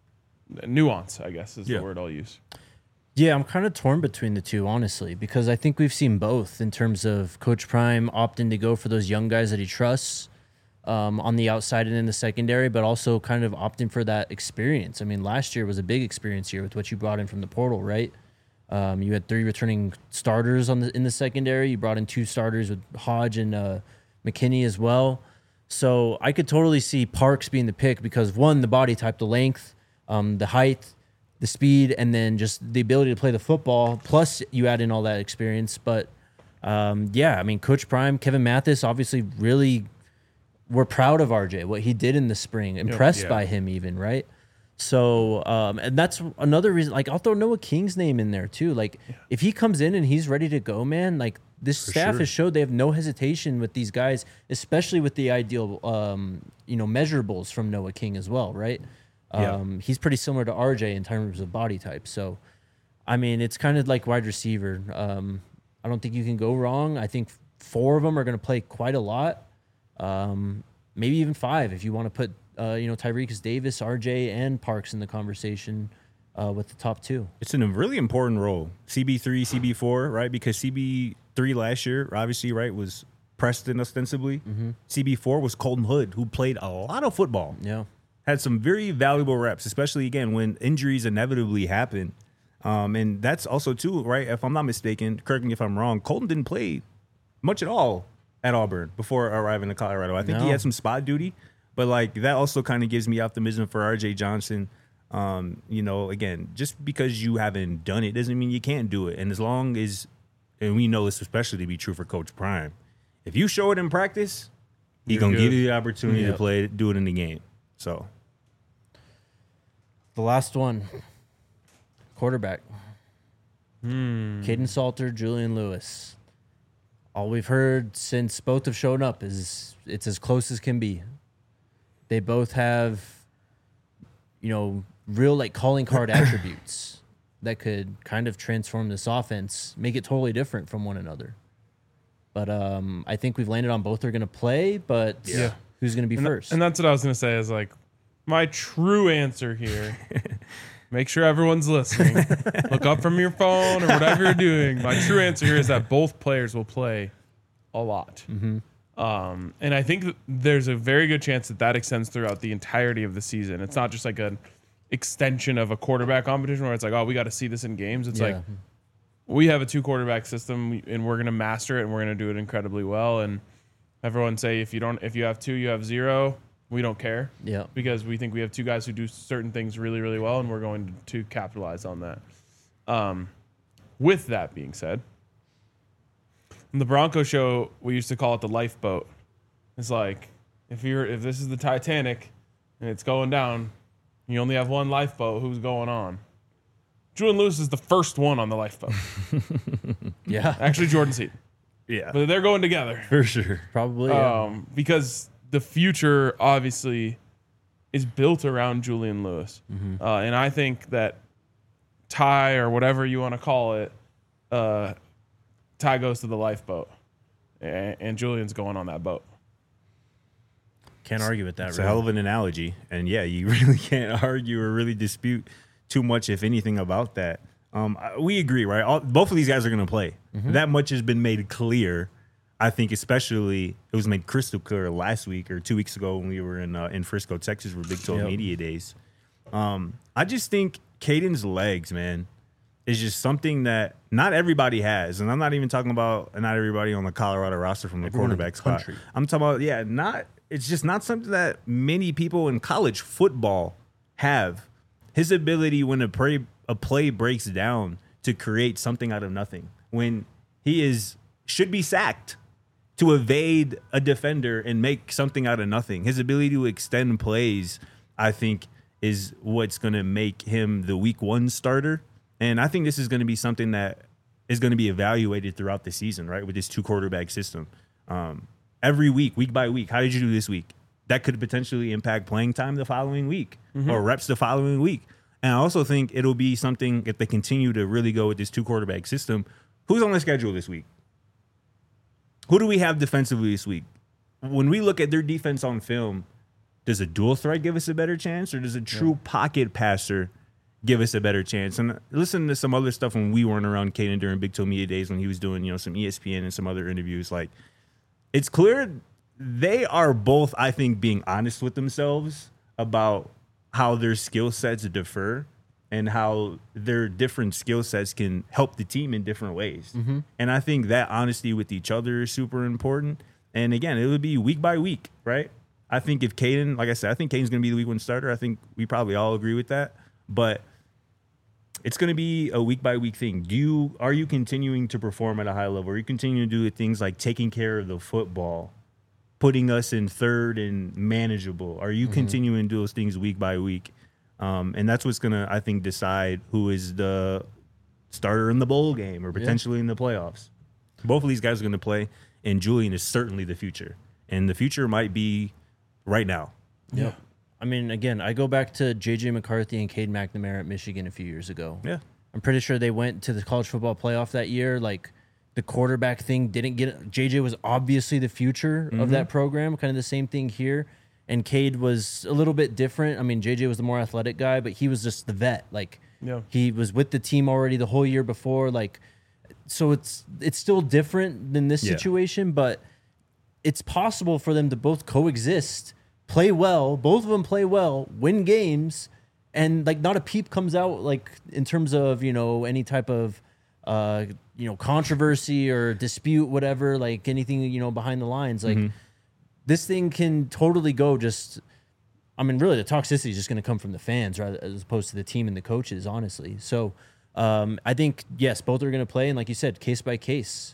nuance, I guess is the word I'll use. Yeah, I'm kind of torn between the two, honestly, because I think we've seen both in terms of Coach Prime opting to go for those young guys that he trusts on the outside and in the secondary, but also kind of opting for that experience. I mean, last year was a big experience year with what you brought in from the portal, right? You had 3 returning starters in the secondary. You brought in 2 starters with Hodge and McKinney as well. So I could totally see Parks being the pick because, one, the body type, the length, the height, the speed, and then just the ability to play the football, plus you add in all that experience. But, yeah, I mean, Coach Prime, Kevin Mathis, obviously really we're proud of RJ, what he did in the spring, impressed by him even, right? So, and that's another reason, like, I'll throw Noah King's name in there too. Like, if he comes in and he's ready to go, man, like, this staff has showed they have no hesitation with these guys, especially with the ideal, measurables from Noah King as well, right? He's pretty similar to RJ in terms of body type. So, I mean, it's kind of like wide receiver. I don't think you can go wrong. I think 4 of them are going to play quite a lot. Maybe even 5 if you want to put, Tyreek Davis, RJ, and Parks in the conversation with the top 2. It's a really important role. CB3, CB4, right? Because CB3 last year, obviously, right, was Preston ostensibly. CB4 was Colton Hood, who played a lot of football. Yeah. Had some very valuable reps, especially, again, when injuries inevitably happen. And that's also, too, right, if I'm not mistaken, correct me if I'm wrong, Colton didn't play much at all at Auburn before arriving to Colorado. I think he had some spot duty, but, like, that also kind of gives me optimism for RJ Johnson. Again, just because you haven't done it doesn't mean you can't do it. And as long as, and we know this especially to be true for Coach Prime, if you show it in practice, he's going to give you the opportunity to do it in the game. So the last one, quarterback. Caden Salter, Julian Lewis. All we've heard since both have shown up is it's as close as can be. They both have, real like calling card attributes that could kind of transform this offense, make it totally different from one another. But I think we've landed on both are going to play, but who's going to be first? And that's what I was going to say is like my true answer here. Make sure everyone's listening. Look up from your phone or whatever you're doing. My true answer here is that both players will play a lot. And I think that there's a very good chance that extends throughout the entirety of the season. It's not just like an extension of a quarterback competition where it's like, oh, we got to see this in games. It's like we have a 2 quarterback system and we're going to master it and we're going to do it incredibly well. And everyone say if you have 2, you have 0. We don't care. Yeah. Because we think we have 2 guys who do certain things really, really well, and we're going to capitalize on that. With that being said, in the Bronco show, we used to call it the lifeboat. It's like if this is the Titanic and it's going down, you only have one lifeboat. Who's going on? Julian Lewis is the first one on the lifeboat. Actually, Jordan Seaton. Yeah. But they're going together. For sure. Probably. Because the future obviously is built around Julian Lewis. And I think that Ty, or whatever you want to call it, Ty goes to the lifeboat and Julian's going on that boat. Can't argue with that. It's a hell of an analogy. And yeah, you really can't argue or really dispute too much, if anything, about that. We agree, right? Both of these guys are going to play. That much has been made clear. I think especially it was made crystal clear last week or 2 weeks ago when we were in Frisco, Texas for Big 12 Media Days. I just think Caden's legs, man, is just something that not everybody has. And I'm not even talking about not everybody on the Colorado roster from the quarterback spot. I'm talking about, it's just not something that many people in college football have. His ability when a play breaks down to create something out of nothing. When he should be sacked to evade a defender and make something out of nothing. His ability to extend plays, I think, is what's going to make him the week 1 starter. And I think this is going to be something that is going to be evaluated throughout the season, right, with this 2-quarterback system. Every week by week, how did you do this week? That could potentially impact playing time the following week or reps the following week. And I also think it'll be something, if they continue to really go with this 2-quarterback system, who's on the schedule this week? Who do we have defensively this week? When we look at their defense on film, does a dual threat give us a better chance, or does a true pocket passer give us a better chance? And listen to some other stuff when we weren't around Caden during Big 12 Media Days when he was doing, some ESPN and some other interviews. Like, it's clear they are both, I think, being honest with themselves about how their skill sets differ and how their different skill sets can help the team in different ways. And I think that honesty with each other is super important. And again, it would be week by week, right? I think if Caden, like I said, I think Caden's going to be the week 1 starter. I think we probably all agree with that. But it's going to be a week by week thing. Are you continuing to perform at a high level? Are you continuing to do things like taking care of the football, putting us in third and manageable? Are you continuing to do those things week by week? And that's what's going to, I think, decide who is the starter in the bowl game or potentially in the playoffs. Both of these guys are going to play, and Julian is certainly the future. And the future might be right now. Yeah. I mean, again, I go back to J.J. McCarthy and Cade McNamara at Michigan a few years ago. Yeah. I'm pretty sure they went to the college football playoff that year. Like, the quarterback thing didn't get – J.J. was obviously the future of that program, kind of the same thing here. And Cade was a little bit different. I mean, J.J. was the more athletic guy, but he was just the vet. Like, he was with the team already the whole year before. Like, so it's still different than this situation, but it's possible for them to both coexist, play well, both of them play well, win games, and, like, not a peep comes out, like, in terms of, any type of, controversy or dispute, whatever, like, anything, behind the lines. Like, this thing can totally go just, I mean, really, the toxicity is just going to come from the fans rather as opposed to the team and the coaches, honestly. So I think, yes, both are going to play. And like you said, case by case.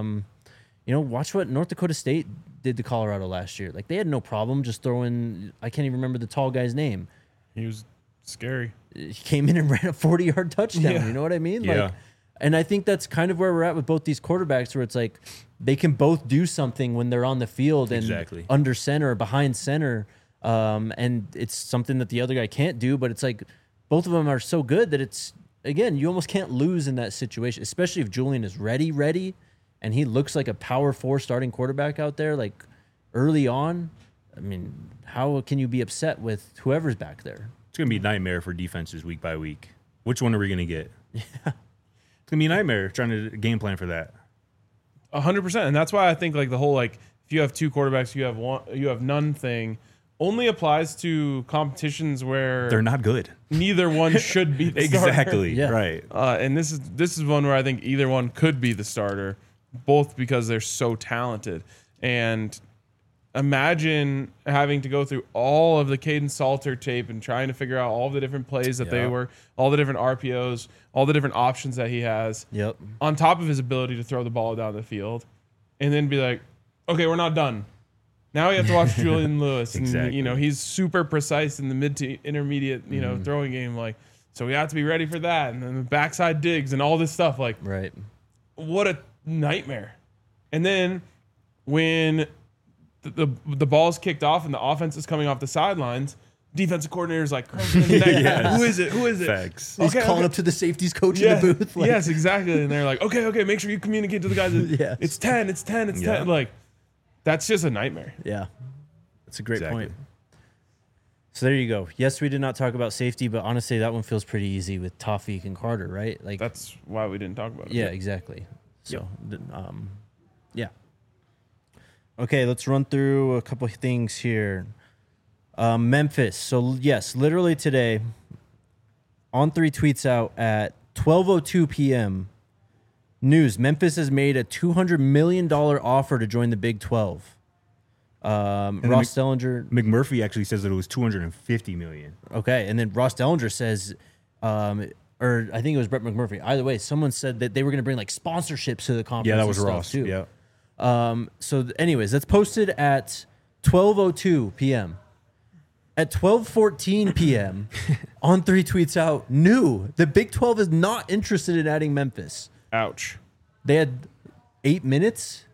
Watch what North Dakota State did to Colorado last year. Like, they had no problem just throwing, I can't even remember the tall guy's name. He was scary. He came in and ran a 40-yard touchdown. Yeah. You know what I mean? Yeah. Like, and I think that's kind of where we're at with both these quarterbacks, where it's like they can both do something when they're on the field and under center or behind center. And it's something that the other guy can't do, but it's like both of them are so good that it's, again, you almost can't lose in that situation, especially if Julian is ready, and he looks like a power 4 starting quarterback out there, like early on. I mean, how can you be upset with whoever's back there? It's going to be a nightmare for defenses week by week. Which one are we going to get? Yeah. It's going to be a nightmare trying to game plan for that. 100%. And that's why I think, like, the whole, like, if you have 2 quarterbacks, you have none thing only applies to competitions where they're not good. Neither one should be the starter. Exactly. Yeah. Right. And this is one where I think either one could be the starter, both because they're so talented. And imagine having to go through all of the Caden Salter tape and trying to figure out all the different plays that they were, all the different RPOs, all the different options that he has. Yep. On top of his ability to throw the ball down the field, and then be like, okay, we're not done. Now we have to watch Julian Lewis. Exactly. And, he's super precise in the mid to intermediate, throwing game. Like, so we have to be ready for that. And then the backside digs and all this stuff. Like, right. What a nightmare. And then when the ball's kicked off and the offense is coming off the sidelines, defensive coordinator's like, yes. Who is it? Facts. He's calling up to the safeties coach in the booth. Like, yes, exactly. And they're like, okay, make sure you communicate to the guys. It's 10. Like, that's just a nightmare. Yeah. It's a great Exactly. point. So there you go. Yes, we did not talk about safety, but honestly, that one feels pretty easy with Toffik and Carter, right? Like, That's why we didn't talk about it. yeah, exactly. So, yeah. Okay, let's run through a couple of things here. Memphis. So yes, literally today, On3 tweets out at 12:02 p.m. News: Memphis has made a $200 million offer to join the Big 12. Ross Dellinger. McMurphy actually says that it was $250 million. Okay, and then Ross Dellinger says, or I think it was Brett McMurphy. Either way, someone said that they were going to bring like sponsorships to the conference. Yeah, that was and stuff, Ross. too. Yeah. Anyways, that's posted at 12:02 p.m. At 12:14 p.m., On3 tweets out, the Big 12 is not interested in adding Memphis. Ouch. They had 8 minutes.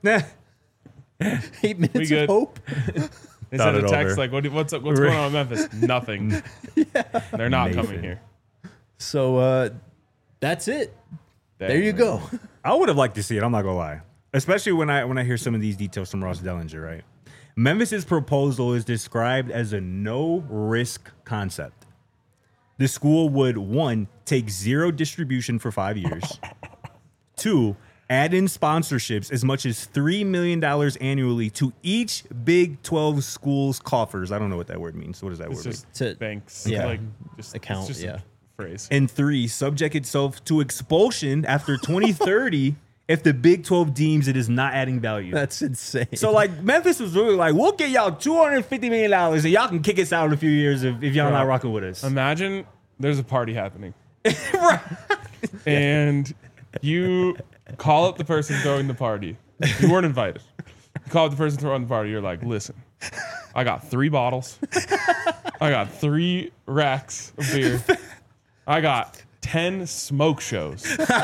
8 minutes of good. hope. They Thought sent a it text over. like, what's going on in Memphis? Nothing. They're not Nathan. coming here. So that's it. Dang, There you man. go. I would have liked to see it. I'm not gonna lie, especially when I hear some of these details from Ross Dellinger. Right, Memphis's proposal is described as a no-risk concept. The school would 1, take 0 distribution for 5 years. 2, add in sponsorships as much as $3 million annually to each Big 12 school's coffers. I don't know what that word means. What does that It's word mean? just To- banks. yeah. Like, just, Account, it's just yeah. a phrase. And 3, subject itself to expulsion after 2030 if the Big 12 deems it is not adding value. That's insane. So like Memphis was really like, we'll get y'all $250 million and y'all can kick us out in a few years if y'all Bro, not rocking with us. Imagine there's a party happening. Right. And you call up the person throwing the party. You weren't invited. You call up the person throwing the party. You're like, listen, I got 3 bottles. I got 3 racks of beer. I got 10 smoke shows.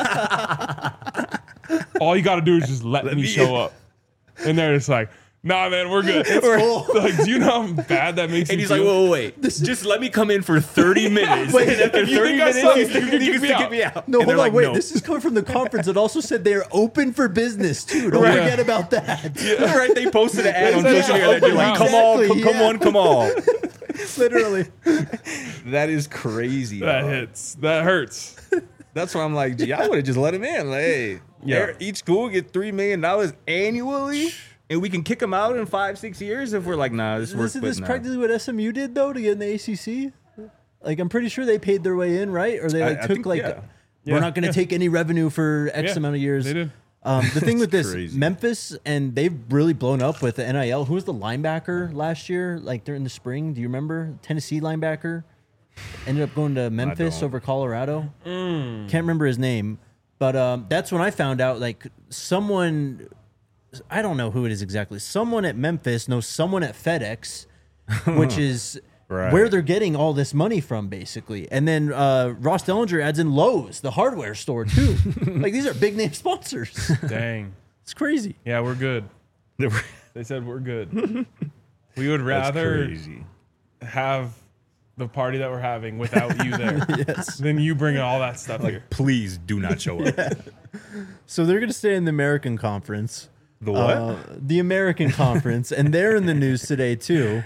All you got to do is just let me show up. And they're just like, nah, man, we're good. Like, do you know how bad that makes And you he's like, feel? wait. Just let me come in for 30 minutes. Wait, and after if you 30 think I minutes, suck, you you can can kick me kick out. me out. no, And they're hold on, like, wait. no. This is coming from the conference that also said they're open for business too. Don't Right. forget about that. Right, they posted an ad on said social it's media. They're open like, house. come on. Literally. That is crazy. That dog. hits. That hurts. That's why I'm like, gee, I would have just let him in. Like, hey, Yeah. each school get $3 million annually. And we can kick them out in 5-6 years if we're like, nah, this works. Isn't but this nah. practically what SMU did though to get in the ACC? Like I'm pretty sure they paid their way in, right? Or they like I took think, like yeah. we're Yeah, not going to yeah. take any revenue for X Yeah, amount of years. they did. The thing with this, crazy. Memphis, and they've really blown up with the NIL. Who was the linebacker last year? Like during the spring, do you remember? Tennessee linebacker ended up going to Memphis don't. over Colorado. Can't remember his name, but that's when I found out. Like someone, I don't know who it is exactly. Someone at Memphis knows someone at FedEx, which is. Right. Where they're getting all this money from, basically. And then Ross Dellinger adds in Lowe's, the hardware store, too. Like, these are big name sponsors. Dang. It's crazy. Yeah, we're good. They said we're good. We would rather crazy. have the party that we're having without you there Yes. than you bringing all that stuff here. Please do not show up. So they're going to stay in the American Conference. The what? The American Conference. And they're in the news today, too.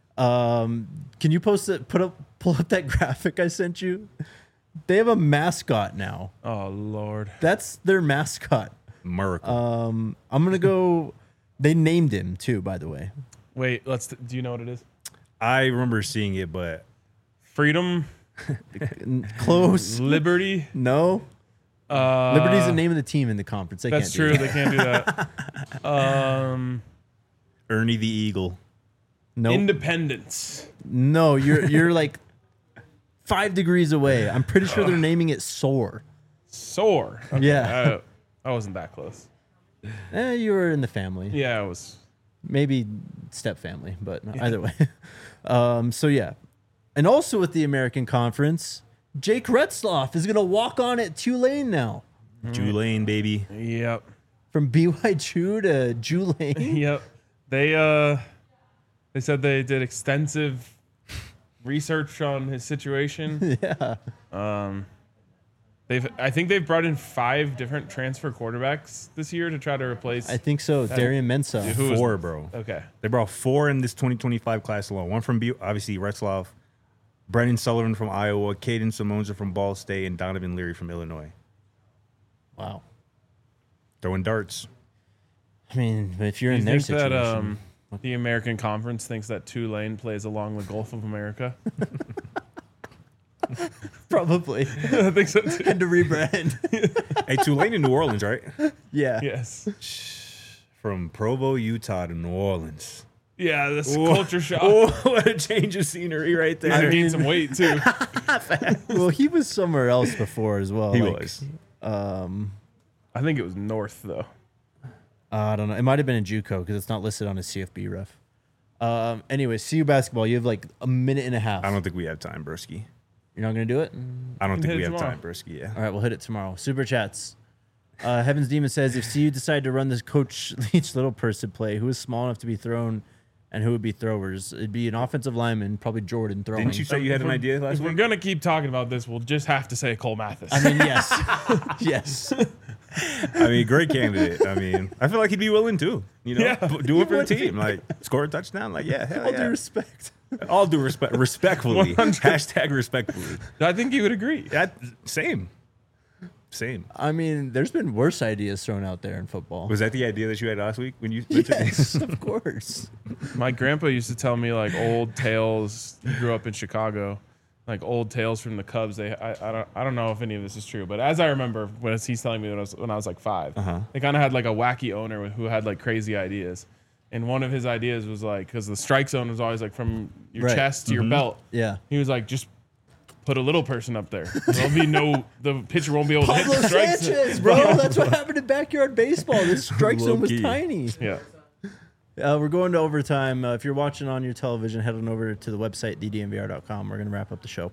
Can you pull up that graphic I sent you? They have a mascot now. Oh, Lord. That's their mascot. Miracle. I'm going to go. They named him, too, by the way. Wait, do you know what it is? I remember seeing it, but Freedom, Close. Liberty. No. Liberty's the name of the team in the conference. They That's can't true. do They can't do that. Ernie the Eagle. Nope. Independence. No, you're like 5 degrees away. I'm pretty sure they're naming it Soar. Soar. Okay, Yeah. I wasn't that close. You were in the family. Yeah, it was. Maybe step family, but either way. So yeah. And also with the American Conference, Jake Retzloff is going to walk on at Tulane now. Tulane, baby. Yep. From BYU to Tulane. Yep. They said they did extensive research on his situation. Yeah. I think they've brought in 5 different transfer quarterbacks this year to try to replace. I think so. Darian Mensah. Who was- 4, bro. Okay. They brought 4 in this 2025 class alone. One from obviously Retzlaff, Brendan Sullivan from Iowa, Caden Simonza from Ball State, and Donovan Leary from Illinois. Wow. Throwing darts. I mean, if you're Do you in their think that situation, the American Conference thinks that Tulane plays along the Gulf of America? probably I think so too. had to rebrand. Hey, Tulane in New Orleans, right? Yeah. Yes. From Provo, Utah to New Orleans. Yeah, this culture shock. Oh, what a change of scenery right there. I gained some weight too. Well, he was somewhere else before as well. He like, was. I think it was north though. I don't know. It might have been in JUCO because it's not listed on his CFB ref. Anyway, CU basketball. You have like a minute and a half. I don't think we have time, Broski. You're not gonna do it. I don't can think hit we it have tomorrow. time, Broski. Yeah. All right, we'll hit it tomorrow. Super chats. Heaven's Demon says, if CU decide to run this Coach Leach little person play, who is small enough to be thrown and who would be throwers? It'd be an offensive lineman, probably Jordan throwing. Didn't you say you had an idea last If we're week? gonna keep talking about this, we'll just have to say Cole Mathis. I mean, yes. Yes. I mean, great candidate. I mean, I feel like he'd be willing too. You know, Yeah. do it for the team. Like, score a touchdown. Like, yeah, hell All yeah. due respect. All due respect. Respectfully. 100. Hashtag respectfully. I think you would agree. That, same. Same. I mean, there's been worse ideas thrown out there in football. Was that the idea that you had last week when you Yes, of course. My grandpa used to tell me like old tales. He grew up in Chicago, like old tales from the Cubs. I don't know if any of this is true, but as I remember, when he's telling me when I was like 5, they kind of had like a wacky owner who had like crazy ideas. And one of his ideas was like, because the strike zone was always like from your Right. chest to your belt. Yeah. He was like, just put a little person up there. There'll be the pitcher won't be able to hit Pablo the strike Sanchez, zone. bro. That's what happened in backyard baseball. This strike zone was Low-key. tiny. Yeah. We're going to overtime. If you're watching on your television, head on over to the website, thednvr.com. We're going to wrap up the show.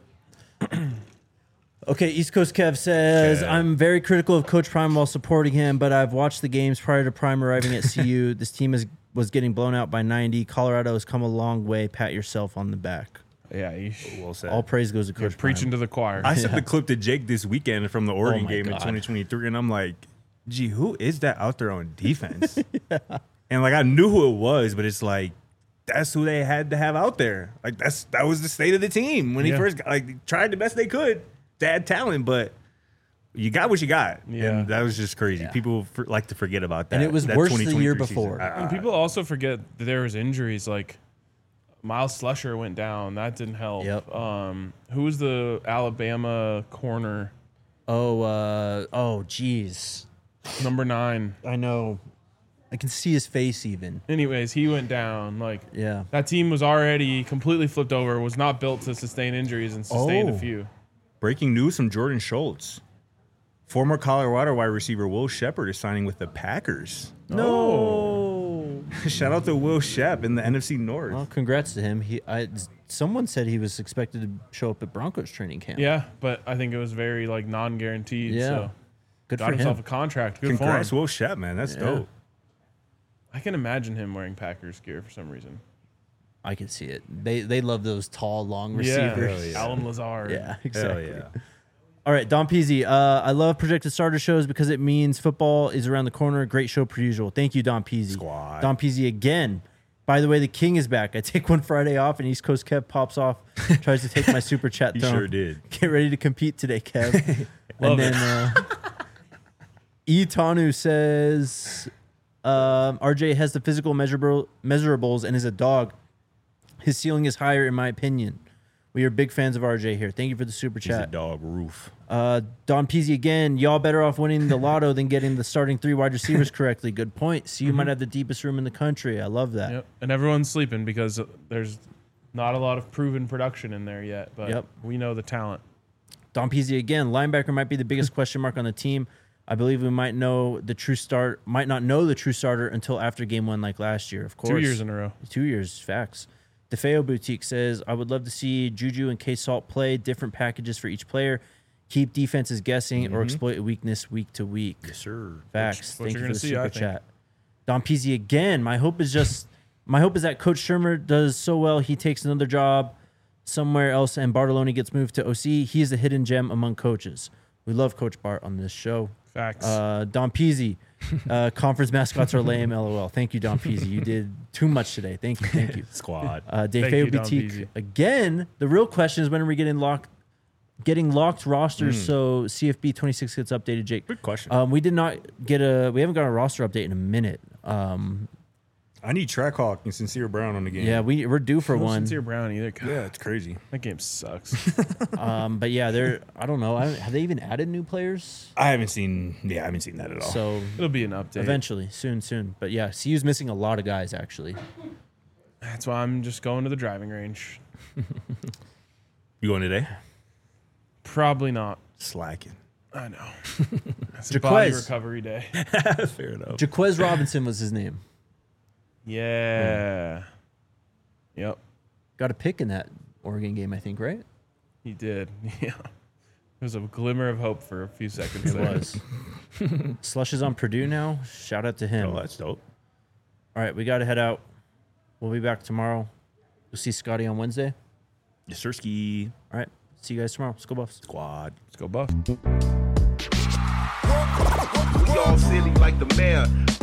Okay, East Coast Kev says, Kev. I'm very critical of Coach Prime while supporting him, but I've watched the games prior to Prime arriving at CU. This team was getting blown out by 90. Colorado has come a long way. Pat yourself on the back. Yeah. Well said. All praise goes to You're Coach preaching Prime. to the choir. I sent the clip to Jake this weekend from the Oregon my game in God. 2023, and I'm like, gee, who is that out there on defense? And like, I knew who it was, but it's like, that's who they had to have out there. Like, that was the state of the team when he Yeah. first got, like, they tried the best they could to add talent, but you got what you got. Yeah. And that was just crazy. People like to forget about that. And it was that worse the 2023 year season. before. And people also forget that there was injuries. Like Miles Slusher went down. That didn't help. Yep. Who was the Alabama corner? Geez. Number 9. I know. I can see his face even. Anyways, he went down. Like Yeah. that team was already completely flipped over. Was not built to sustain injuries and sustained Oh. a few. Breaking news from Jordan Schultz. Former Colorado wide receiver Will Shepard is signing with the Packers. No. Shout out to Will Shep in the NFC North. Well, congrats to him. Someone said he was expected to show up at Broncos training camp. Yeah, but I think it was very like non-guaranteed. Yeah. So Good got for himself a him. contract. Good Congrats, for him. Will Shep, man. That's Yeah. dope. I can imagine him wearing Packers gear for some reason. I can see it. They love those tall, long Yeah, receivers. Alan Lazard. Yeah, Hell exactly. yeah. All right, Don Peasy. I love projected starter shows because it means football is around the corner. Great show per usual. Thank you, Don Peasy. Squad. Don Peasy again. By the way, the king is back. I take one Friday off, and East Coast Kev pops off, tries to take my super chat He throne. sure did. Get ready to compete today, Kev. Love and then E. Tanu says, RJ has the physical measurables and is a dog. His ceiling is higher, in my opinion. We are big fans of RJ here. Thank you for the super He's a chat. dog roof. Don Peasy again. Y'all better off winning the lotto than getting the starting 3 wide receivers correctly. Good point. So you might have the deepest room in the country. I love that. Yep. And everyone's sleeping because there's not a lot of proven production in there yet. But Yep. we know the talent. Don Peasy again. Linebacker might be the biggest question mark on the team. I believe we might not know the true starter until after game 1 like last year. Of course. 2 years in a row. 2 years, facts. DeFeo Boutique says, I would love to see Juju and K-Salt play different packages for each player. Keep defenses guessing or exploit a weakness week to week. Yes, sir. Facts. what Thank you're you for gonna the see, I super think. chat. Don Peasy again. My hope is that Coach Shermer does so well he takes another job somewhere else and Bartoloni gets moved to OC. He is a hidden gem among coaches. We love Coach Bart on this show. Facts. Don Peasy, conference mascots are lame. LOL. Thank you, Don Peasy. You did too much today. Thank you. Thank you. Squad. Dave Thank you, Don Boutique. Peasy. Again, the real question is when are we getting locked rosters so CFB 26 gets updated, Jake? Good question. We did not get we haven't got a roster update in a minute. I need Trackhawk and Sincere Brown on the game. Yeah, we're due for No one. Sincere Brown either. God, Yeah, it's crazy. that game sucks. But yeah, I don't know. Have they even added new players? I haven't seen that at all. So It'll be an update. eventually, soon. But yeah, CU's missing a lot of guys actually. That's why I'm just going to the driving range. You going today? Probably not. Slacking. I know. It's a body Jaquez. recovery day. Fair enough. Jaquez Robinson was his name. Yeah. Yep. Got a pick in that Oregon game, I think, right? He did. Yeah. There was a glimmer of hope for a few seconds It there. was. Slush is on Purdue now. Shout out to him. Oh, that's dope. All right, we got to head out. We'll be back tomorrow. You'll see Scotty on Wednesday. Yes, sir, ski. All right, see you guys tomorrow. Let's go Buffs. Squad. Let's go Buff. We all silly like the mayor.